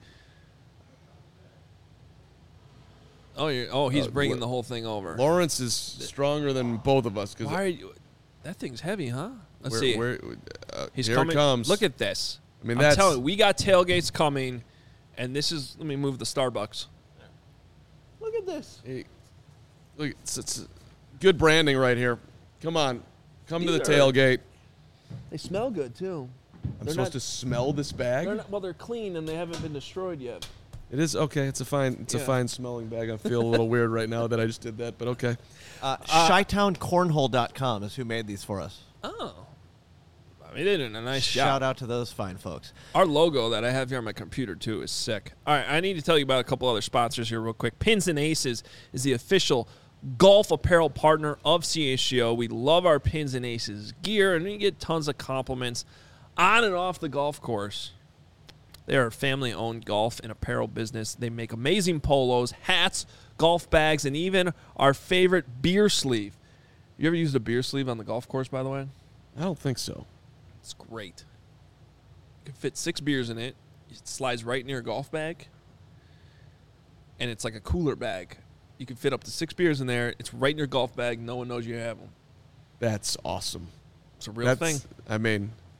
He's bringing the whole thing over. Lawrence is stronger than both of us. Why are you? That thing's heavy, huh? Let's here see. Here it comes. Look at this. I mean, I'm telling you, we got tailgates coming, and this is. Let me move the Starbucks. Look at this. Hey, look, it's good branding right here. Come on, come to the These are- tailgate. They smell good too. I'm supposed to smell this bag. They're clean and they haven't been destroyed yet. It is okay. It's a fine smelling bag. I feel a little weird right now that I just did that, but okay. ChytownCornhole.com is who made these for us. Oh, I mean, they did a nice job. Shout out to those fine folks. Our logo that I have here on my computer, too, is sick. All right, I need to tell you about a couple other sponsors here real quick. Pins and Aces is the official golf apparel partner of CHGO. We love our Pins and Aces gear, and we get tons of compliments on and off the golf course. They are a family-owned golf and apparel business. They make amazing polos, hats, golf bags, and even our favorite beer sleeve. You ever used a beer sleeve on the golf course, by the way? I don't think so. It's great. You can fit 6 beers in it. It slides right in your golf bag. And it's like a cooler bag. You can fit up to 6 beers in there. It's right in your golf bag. No one knows you have them. That's awesome. It's a real thing. I mean,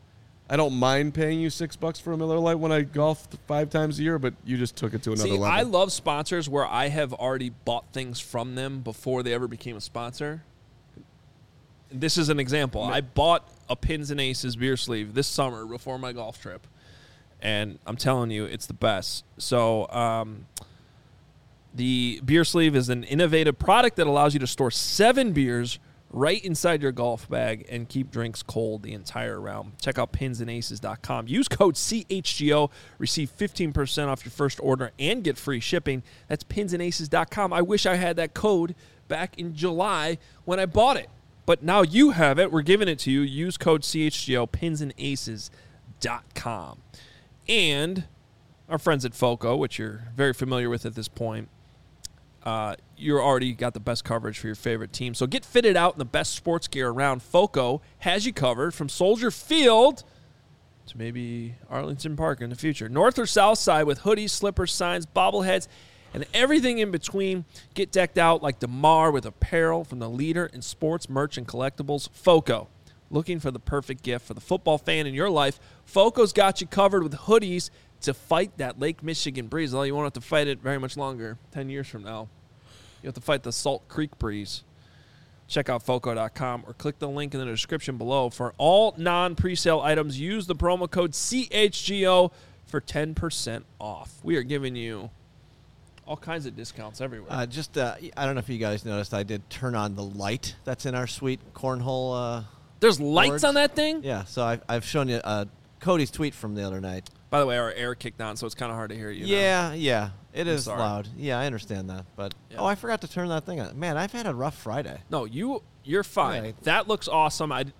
I don't mind paying you $6 for a Miller Lite when I golf 5 times a year, but you just took it to another level. I love sponsors where I have already bought things from them before they ever became a sponsor. This is an example. I bought a Pins and Aces beer sleeve this summer before my golf trip, and I'm telling you, it's the best. So the beer sleeve is an innovative product that allows you to store 7 beers right inside your golf bag and keep drinks cold the entire round. Check out pinsandaces.com. Use code CHGO. Receive 15% off your first order and get free shipping. That's pinsandaces.com. I wish I had that code back in July when I bought it. But now you have it. We're giving it to you. Use code CHGO, pinsandaces.com. And our friends at FOCO, which you're very familiar with at this point, you're already got the best coverage for your favorite team. So get fitted out in the best sports gear around. FOCO has you covered from Soldier Field to maybe Arlington Park in the future. North or south side with hoodies, slippers, signs, bobbleheads, and everything in between. Get decked out like DeMar with apparel from the leader in sports, merch, and collectibles, FOCO. Looking for the perfect gift for the football fan in your life? FOCO's got you covered with hoodies to fight that Lake Michigan breeze. Although you won't have to fight it very much longer, 10 years from now. You have to fight the Salt Creek breeze. Check out FOCO.com or click the link in the description below. For all non-presale items, use the promo code CHGO for 10% off. We are giving you all kinds of discounts everywhere. I don't know if you guys noticed, I did turn on the light that's in our sweet cornhole. There's lights boards. on that thing? Yeah, so I've shown you Cody's tweet from the other night. By the way, our air kicked on, so it's kind of hard to hear you Yeah, now. yeah. It is sorry. loud. Yeah, I understand that. But, I forgot to turn that thing on. Man, I've had a rough Friday. No, you're fine. Right. That looks awesome. I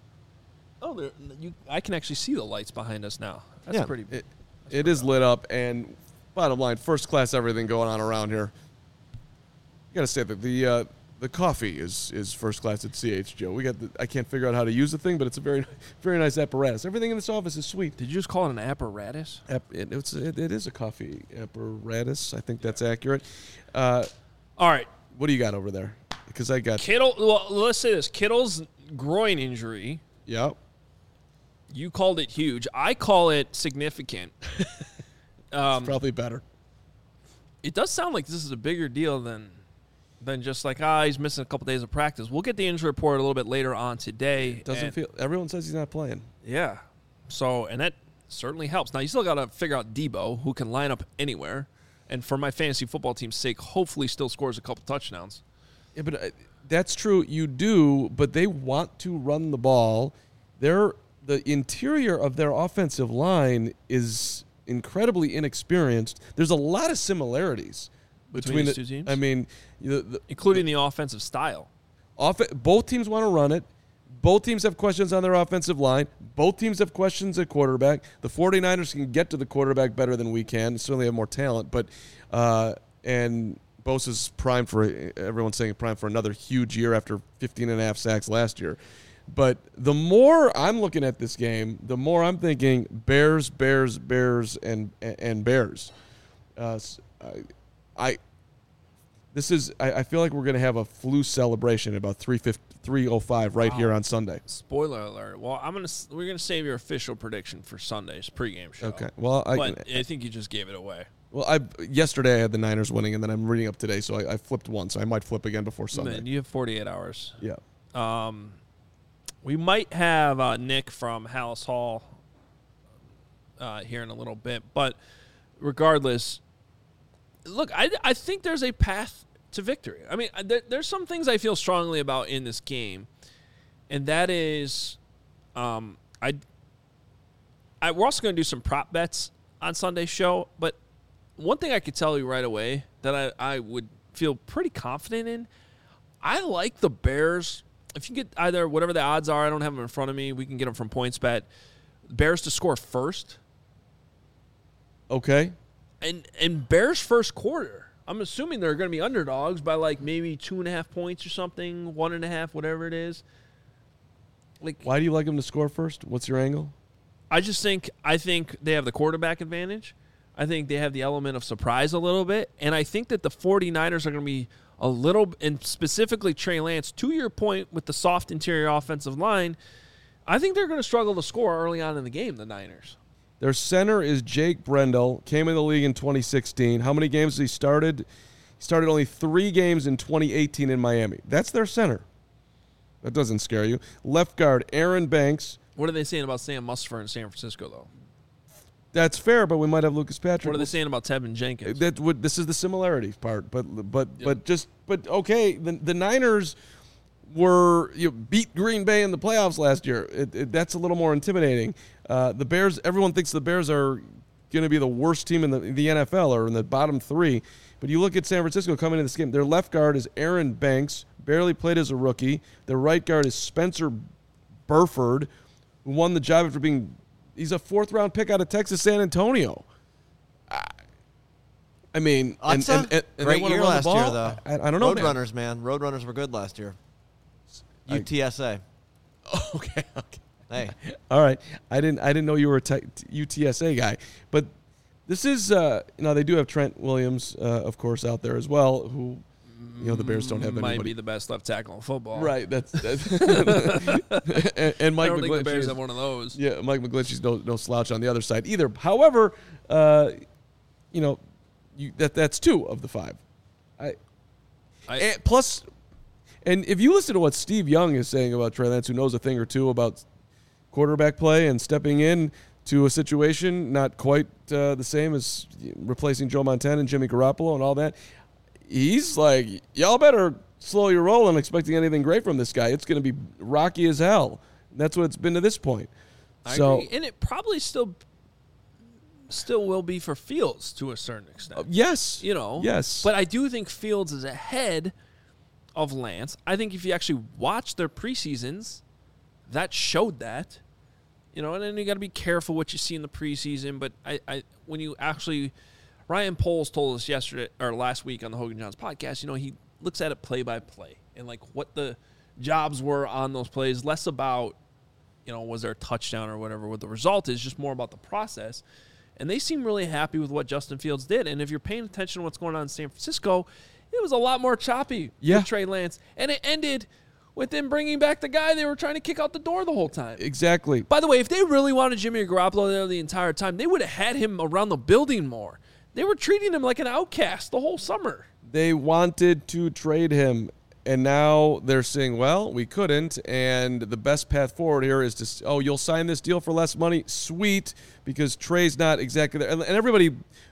can actually see the lights behind us now. That's pretty. It is lit up, and bottom line, first class everything going on around here. You got to say that the coffee is first class at CHGO. I can't figure out how to use the thing, but it's a very very nice apparatus. Everything in this office is sweet. Did you just call it an apparatus? It is a coffee apparatus. I think that's accurate. All right. What do you got over there? Because I got Kittle. Well, let's say this: Kittle's groin injury. Yep. You called it huge. I call it significant. It's probably better. It does sound like this is a bigger deal than just like, he's missing a couple days of practice. We'll get the injury report a little bit later on today. Everyone says he's not playing. Yeah. So, and that certainly helps. Now, you still got to figure out Debo, who can line up anywhere. And for my fantasy football team's sake, hopefully still scores a couple touchdowns. Yeah, but that's true. You do, but they want to run the ball. The interior of their offensive line is incredibly inexperienced. There's a lot of similarities between these two teams. I mean, including the offensive style. Both teams want to run it. Both teams have questions on their offensive line. Both teams have questions at quarterback. The 49ers can get to the quarterback better than we can. They certainly have more talent, but and Bosa's primed for, everyone's saying primed for another huge year after 15.5 sacks last year. But the more I'm looking at this game, the more I'm thinking Bears, and Bears. I feel like we're going to have a flu celebration at about 3:05 right here on Sunday. Spoiler alert. Well, we're gonna save your official prediction for Sunday's pregame show. Okay. Well, I think you just gave it away. Well, yesterday I had the Niners winning, and then I'm reading up today, so I flipped one, so I might flip again before Sunday. Man, you have 48 hours. Yeah. We might have Nick from Hallis Hall here in a little bit, but regardless, look, I think there's a path to victory. I mean, there's some things I feel strongly about in this game, and that is, we're also going to do some prop bets on Sunday's show, but one thing I could tell you right away that I would feel pretty confident in, I like the Bears. If you get either whatever the odds are, I don't have them in front of me. We can get them from PointsBet. Bears to score first. Okay. And Bears first quarter, I'm assuming they're going to be underdogs by like maybe 2.5 points or something, 1.5, whatever it is. Like, why do you like them to score first? What's your angle? I think they have the quarterback advantage. I think they have the element of surprise a little bit. And I think that the 49ers are going to be a little, and specifically Trey Lance, to your point with the soft interior offensive line, I think they're going to struggle to score early on in the game, the Niners. Their center is Jake Brendel. Came in the league in 2016. How many games has he started? He started only 3 games in 2018 in Miami. That's their center. That doesn't scare you. Left guard, Aaron Banks. What are they saying about Sam Musfer in San Francisco, though? That's fair, but we might have Lucas Patrick. What are they saying about Tevin Jenkins? This is the similarity part, but okay. The Niners were beat Green Bay in the playoffs last year. That's a little more intimidating. The Bears. Everyone thinks the Bears are going to be the worst team in the NFL or in the bottom 3. But you look at San Francisco coming into this game. Their left guard is Aaron Banks, barely played as a rookie. Their right guard is Spencer Burford, who won the job after being. He's a 4th-round pick out of Texas San Antonio. I mean, and great year last year, though. I don't know, Roadrunners, man. Roadrunners were good last year. UTSA. Okay. Hey. All right. I didn't know you were a UTSA guy, but this is they do have Trent Williams, of course, out there as well, who the Bears don't have anybody. Might be the best left tackle in football. Right. That's and Mike I don't McGlinchey. think the Bears have one of those. Yeah, Mike McGlinchey's no slouch on the other side either. However, that's 2 of the 5. And if you listen to what Steve Young is saying about Trey Lance, who knows a thing or two about quarterback play and stepping in to a situation not quite the same as replacing Joe Montana and Jimmy Garoppolo and all that, he's like, y'all better slow your roll on expecting anything great from this guy. It's going to be rocky as hell. That's what it's been to this point. I agree. And it probably still will be for Fields to a certain extent. Yes. Yes. But I do think Fields is ahead of Lance. I think if you actually watch their preseasons, that showed that. And then you got to be careful what you see in the preseason. But when you actually, Ryan Poles told us last week on the Hogan Johns podcast, he looks at it play by play and like what the jobs were on those plays, less about, was there a touchdown or whatever, what the result is, just more about the process. And they seem really happy with what Justin Fields did. And if you're paying attention to what's going on in San Francisco, it was a lot more choppy with Trey Lance. And it ended with them bringing back the guy they were trying to kick out the door the whole time. Exactly. By the way, if they really wanted Jimmy Garoppolo there the entire time, they would have had him around the building more. They were treating him like an outcast the whole summer. They wanted to trade him, and now they're saying, well, we couldn't, and the best path forward here is to, you'll sign this deal for less money? Sweet, because Trey's not exactly there. And everybody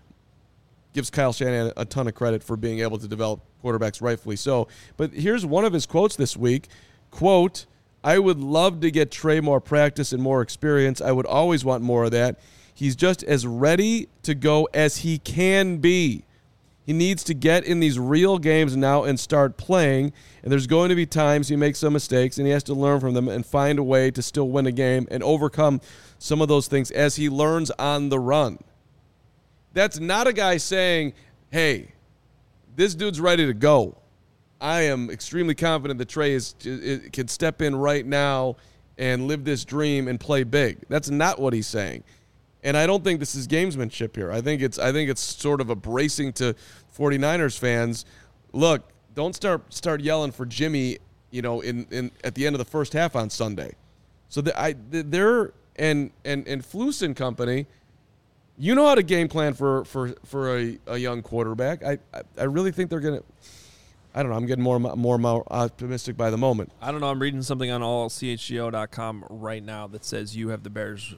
gives Kyle Shanahan a ton of credit for being able to develop quarterbacks, rightfully so. But here's one of his quotes this week. Quote, I would love to get Trey more practice and more experience. I would always want more of that. He's just as ready to go as he can be. He needs to get in these real games now and start playing, and there's going to be times he makes some mistakes, and he has to learn from them and find a way to still win a game and overcome some of those things as he learns on the run. That's not a guy saying, hey, this dude's ready to go. I am extremely confident that Trey can step in right now and live this dream and play big. That's not what he's saying. And I don't think this is gamesmanship here. I think it's sort of a bracing to 49ers fans. Look, don't start yelling for Jimmy, in at the end of the first half on Sunday. So they're and Flus and company, you know how to game plan for a young quarterback. I really think they're gonna. I don't know. I'm getting more optimistic by the moment. I don't know. I'm reading something on allchgo.com right now that says you have the Bears.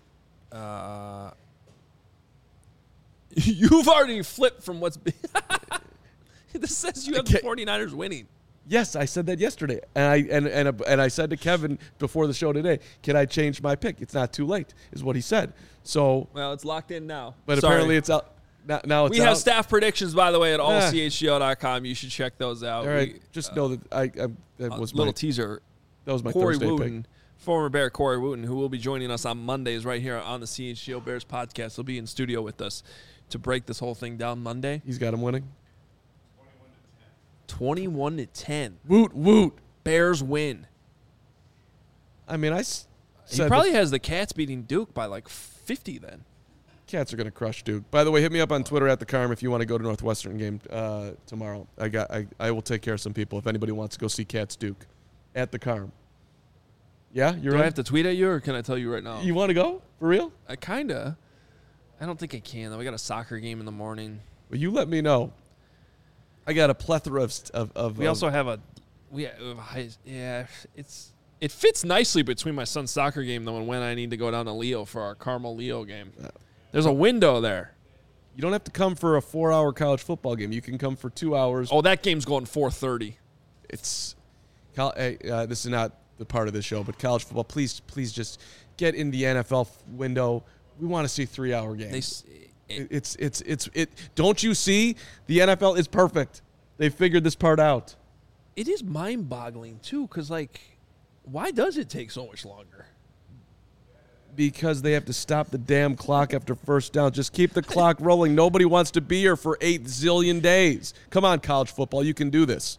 You've already flipped from what's been. This says you have the 49ers winning. Yes, I said that yesterday, and I said to Kevin before the show today, "Can I change my pick? It's not too late," is what he said. So, well, it's locked in now. But apparently, it's out now. It's we have staff predictions, by the way, at allchgo.com. You should check those out. All right, just know that that was a little teaser. That was my Corey Thursday Wooten, pick. Former Bear Corey Wooten, who will be joining us on Mondays right here on the CHGO Bears podcast. He'll be in studio with us to break this whole thing down Monday. He's got him winning. 21-10. Woot. Bears win. I mean, he probably has the Cats beating Duke by like 50 then. Cats are going to crush Duke. By the way, hit me up on Twitter at the Carm if you want to go to Northwestern game tomorrow. I will take care of some people if anybody wants to go see Cats Duke at the Carm. Yeah, you're Do right. I have to tweet at you, or can I tell you right now? You want to go for real? I kinda. I don't think I can though. We got a soccer game in the morning. Well, you let me know. I got a plethora of. We also have it fits nicely between my son's soccer game though and when I need to go down to Leo for our Carmel Leo game. There's a window there. You don't have to come for a 4-hour college football game. You can come for 2 hours. Oh, that game's going 4:30. It's this is not the part of the show, but college football. Please just get in the NFL window. We want to see 3-hour games. Don't you see? The NFL is perfect. They figured this part out. It is mind-boggling too, because why does it take so much longer? Because they have to stop the damn clock after first down. Just keep the clock rolling. Nobody wants to be here for 8 zillion days. Come on, college football. You can do this.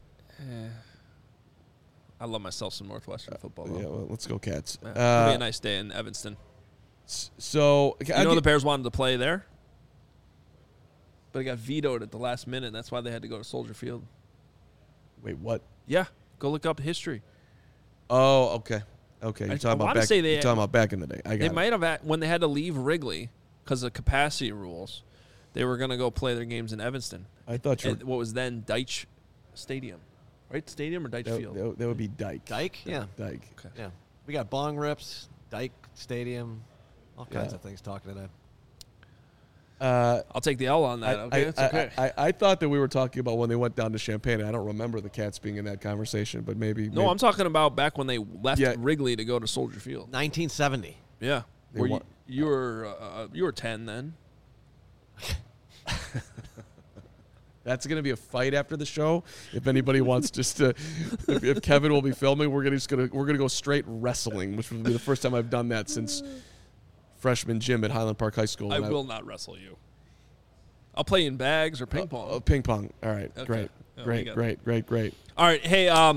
I love myself some Northwestern football. Yeah, well, let's go Cats. It'll be a nice day in Evanston. So The Bears wanted to play there, but it got vetoed at the last minute. That's why they had to go to Soldier Field. Wait, what? Yeah, go look up history. Oh, okay. Okay, you're talking about back in the day. They might have, when they had to leave Wrigley because of capacity rules, they were going to go play their games in Evanston. I thought you were, what was then Deitch Stadium. Right? Stadium or Deitch Field? That would be Dyke. Dyke? Yeah. Dyke. Okay. Yeah. We got bong rips, Dyke Stadium, all kinds of things talking today. I'll take the L on that. It's okay. I thought that we were talking about when they went down to Champaign. I don't remember the Cats being in that conversation, but maybe. No, I'm talking about back when they left Wrigley to go to Soldier Field. 1970. Yeah. You were 10 then. That's going to be a fight after the show. If anybody wants just to, if Kevin will be filming, we're gonna go straight wrestling, which will be the first time I've done that since freshman gym at Highland Park High School. I will not wrestle you. I'll play in bags or ping pong. Ping pong. All right. Okay. Great. All right. Hey,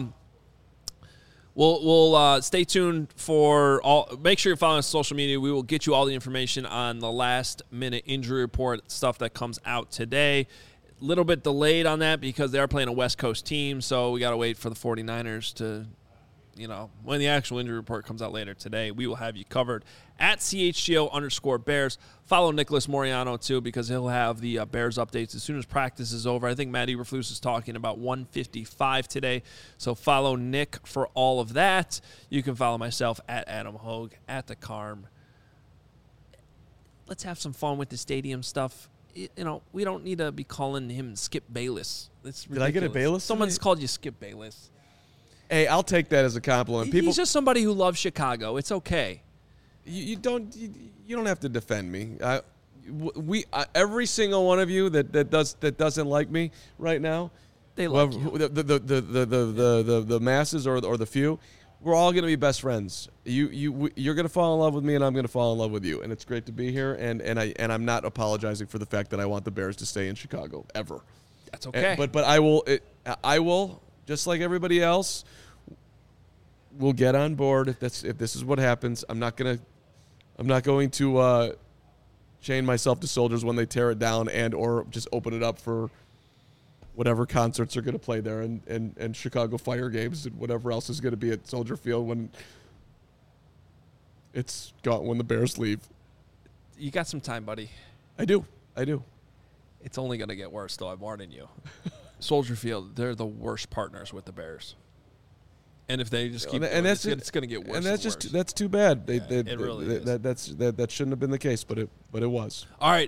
we'll stay tuned for all. Make sure you're following us on social media. We will get you all the information on the last minute injury report stuff that comes out today. A little bit delayed on that because they are playing a West Coast team, so we got to wait for the 49ers to, when the actual injury report comes out later today, we will have you covered at CHGO_Bears. Follow Nicholas Moriano, too, because he'll have the Bears updates as soon as practice is over. I think Matt Eberflus is talking about 1:55 today, so follow Nick for all of that. You can follow myself at Adam Hogue, at the Carm. Let's have some fun with the stadium stuff. We don't need to be calling him Skip Bayless. It's ridiculous. Did I get a Bayless? Someone's called you Skip Bayless. Hey, I'll take that as a compliment. He's just somebody who loves Chicago. It's okay. You don't have to defend me. Every single one of you that doesn't like me right now, they like you. The masses or the few. We're all going to be best friends. You're going to fall in love with me, and I'm going to fall in love with you. And it's great to be here. And I'm not apologizing for the fact that I want the Bears to stay in Chicago ever. That's okay. But I will just like everybody else. We'll get on board if this is what happens. I'm not going to chain myself to Soldiers when they tear it down or just open it up for whatever concerts are going to play there and Chicago Fire games and whatever else is going to be at Soldier Field when it's gone, when the Bears leave. You got some time, buddy. I do. It's only going to get worse, though. I'm warning you. Soldier Field, they're the worst partners with the Bears. And if they just keep going, it's going to get worse. And that's too bad. It really is. That shouldn't have been the case, but it was. All right.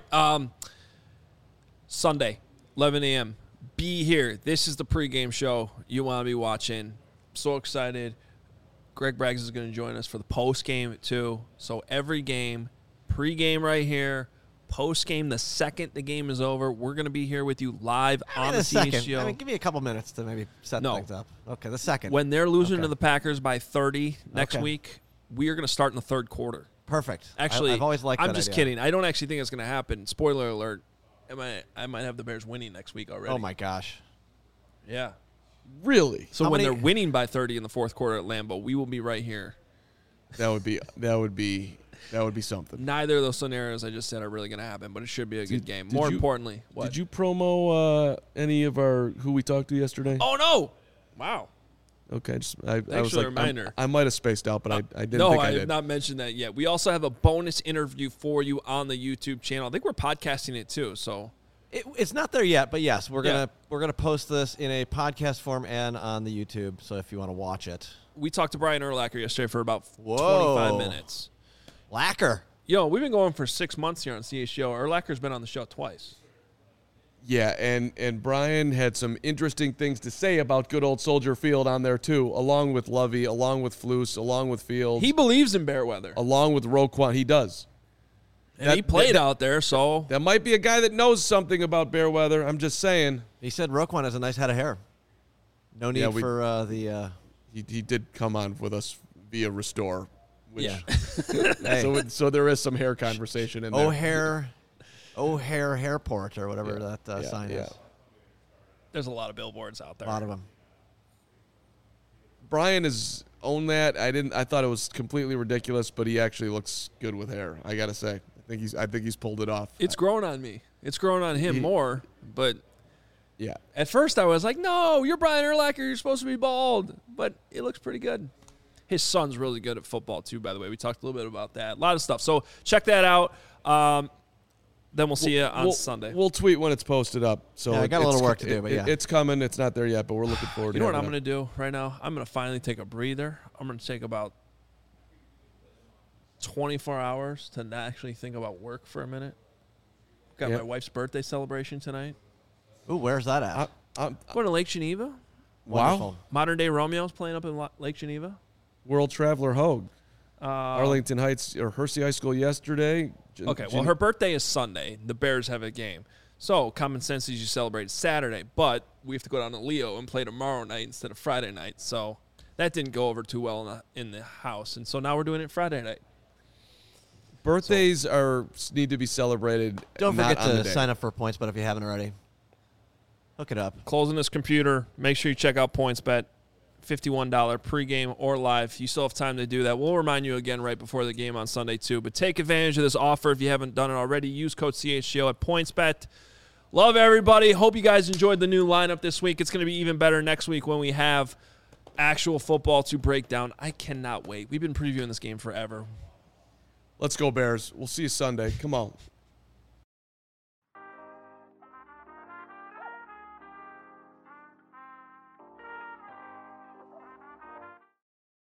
Sunday, 11 a.m. Be here. This is the pregame show you want to be watching. So excited. Greg Braggs is going to join us for the postgame, too. So every game, pregame right here, postgame the second the game is over. We're going to be here with you live on the CHGO. Give me a couple minutes to maybe set things up. Okay, the second. When they're losing to the Packers by 30 next week, we are going to start in the third quarter. Perfect. Actually, I've always liked that I'm just idea. kidding. I don't actually think it's going to happen. Spoiler alert. I might have the Bears winning next week already. Oh, my gosh. Yeah. Really? So when they're winning by 30 in the fourth quarter at Lambeau, we will be right here. That would be something. Neither of those scenarios I just said are really going to happen, but it should be a good game. More importantly, what? Did you promo any of who we talked to yesterday? Oh, no. Wow. Okay, I for was the like, reminder. I might have spaced out, but I didn't No, think I I did. have not mentioned that yet. We also have a bonus interview for you on the YouTube channel. I think we're podcasting it too. So It's not there yet, but yes, we're Yeah. gonna post this in a podcast form and on the YouTube. So if you want to watch it, we talked to Brian Urlacher yesterday for about Whoa. 25 minutes. lacquer. Yo, we've been going for 6 months here on CHGO. Urlacher's been on the show twice. Yeah, and Brian had some interesting things to say about good old Soldier Field on there too, along with Lovey, along with Flus, along with Fields, He believes in bear weather. along with Roquan. He does. And he played out there, so That might be a guy that knows something about bear weather. I'm just saying. He said Roquan has a nice head of hair. No need Yeah, we- for the. He did come on with us via Restore. Which, yeah. Hey, so there is some hair conversation in there. O'Hare Hairport or whatever that Yeah, sign yeah. is. There's a lot of billboards out A there. lot of them. Brian has owned that. I thought it was completely ridiculous, but he actually looks good with hair. I gotta say, I think he's pulled it off. It's grown on me. It's grown on him more, but Yeah. at first I was like, no, you're Brian Urlacher. You're supposed to be bald. But it looks pretty good. His son's really good at football, too, by the way. We talked a little bit about that. A lot of stuff. So check that out. Then we'll see you on Sunday. We'll tweet when it's posted up. So Yeah, I got a it's little work to do, but yeah. it's coming. It's not there yet, but we're looking forward to You know it. what I'm going to do right now? I'm going to finally take a breather. I'm going to take about 24 hours to not actually think about work for a minute. Got Yeah. my wife's birthday celebration tonight. Ooh, where's that at? Going to Lake Geneva. Wonderful. Modern Day Romeo's playing up in Lake Geneva. World Traveler Hogue, Uh, Arlington Heights or Hersey High School yesterday. Okay, well, her birthday is Sunday. The Bears have a game. So, common sense is you celebrate Saturday, but we have to go down to Leo and play tomorrow night instead of Friday night. So, that didn't go over too well in the house. And so now we're doing it Friday night. Birthdays need to be celebrated. Don't not forget on the to day. sign up for points, but if you haven't already, hook it up. Closing this computer. Make sure you check out PointsBet. $51 pregame or live. You still have time to do that. We'll remind you again right before the game on Sunday, too. But take advantage of this offer if you haven't done it already. Use code CHGO at PointsBet. Love everybody. Hope you guys enjoyed the new lineup this week. It's going to be even better next week when we have actual football to break down. I cannot wait. We've been previewing this game forever. Let's go Bears. We'll see you Sunday. Come on.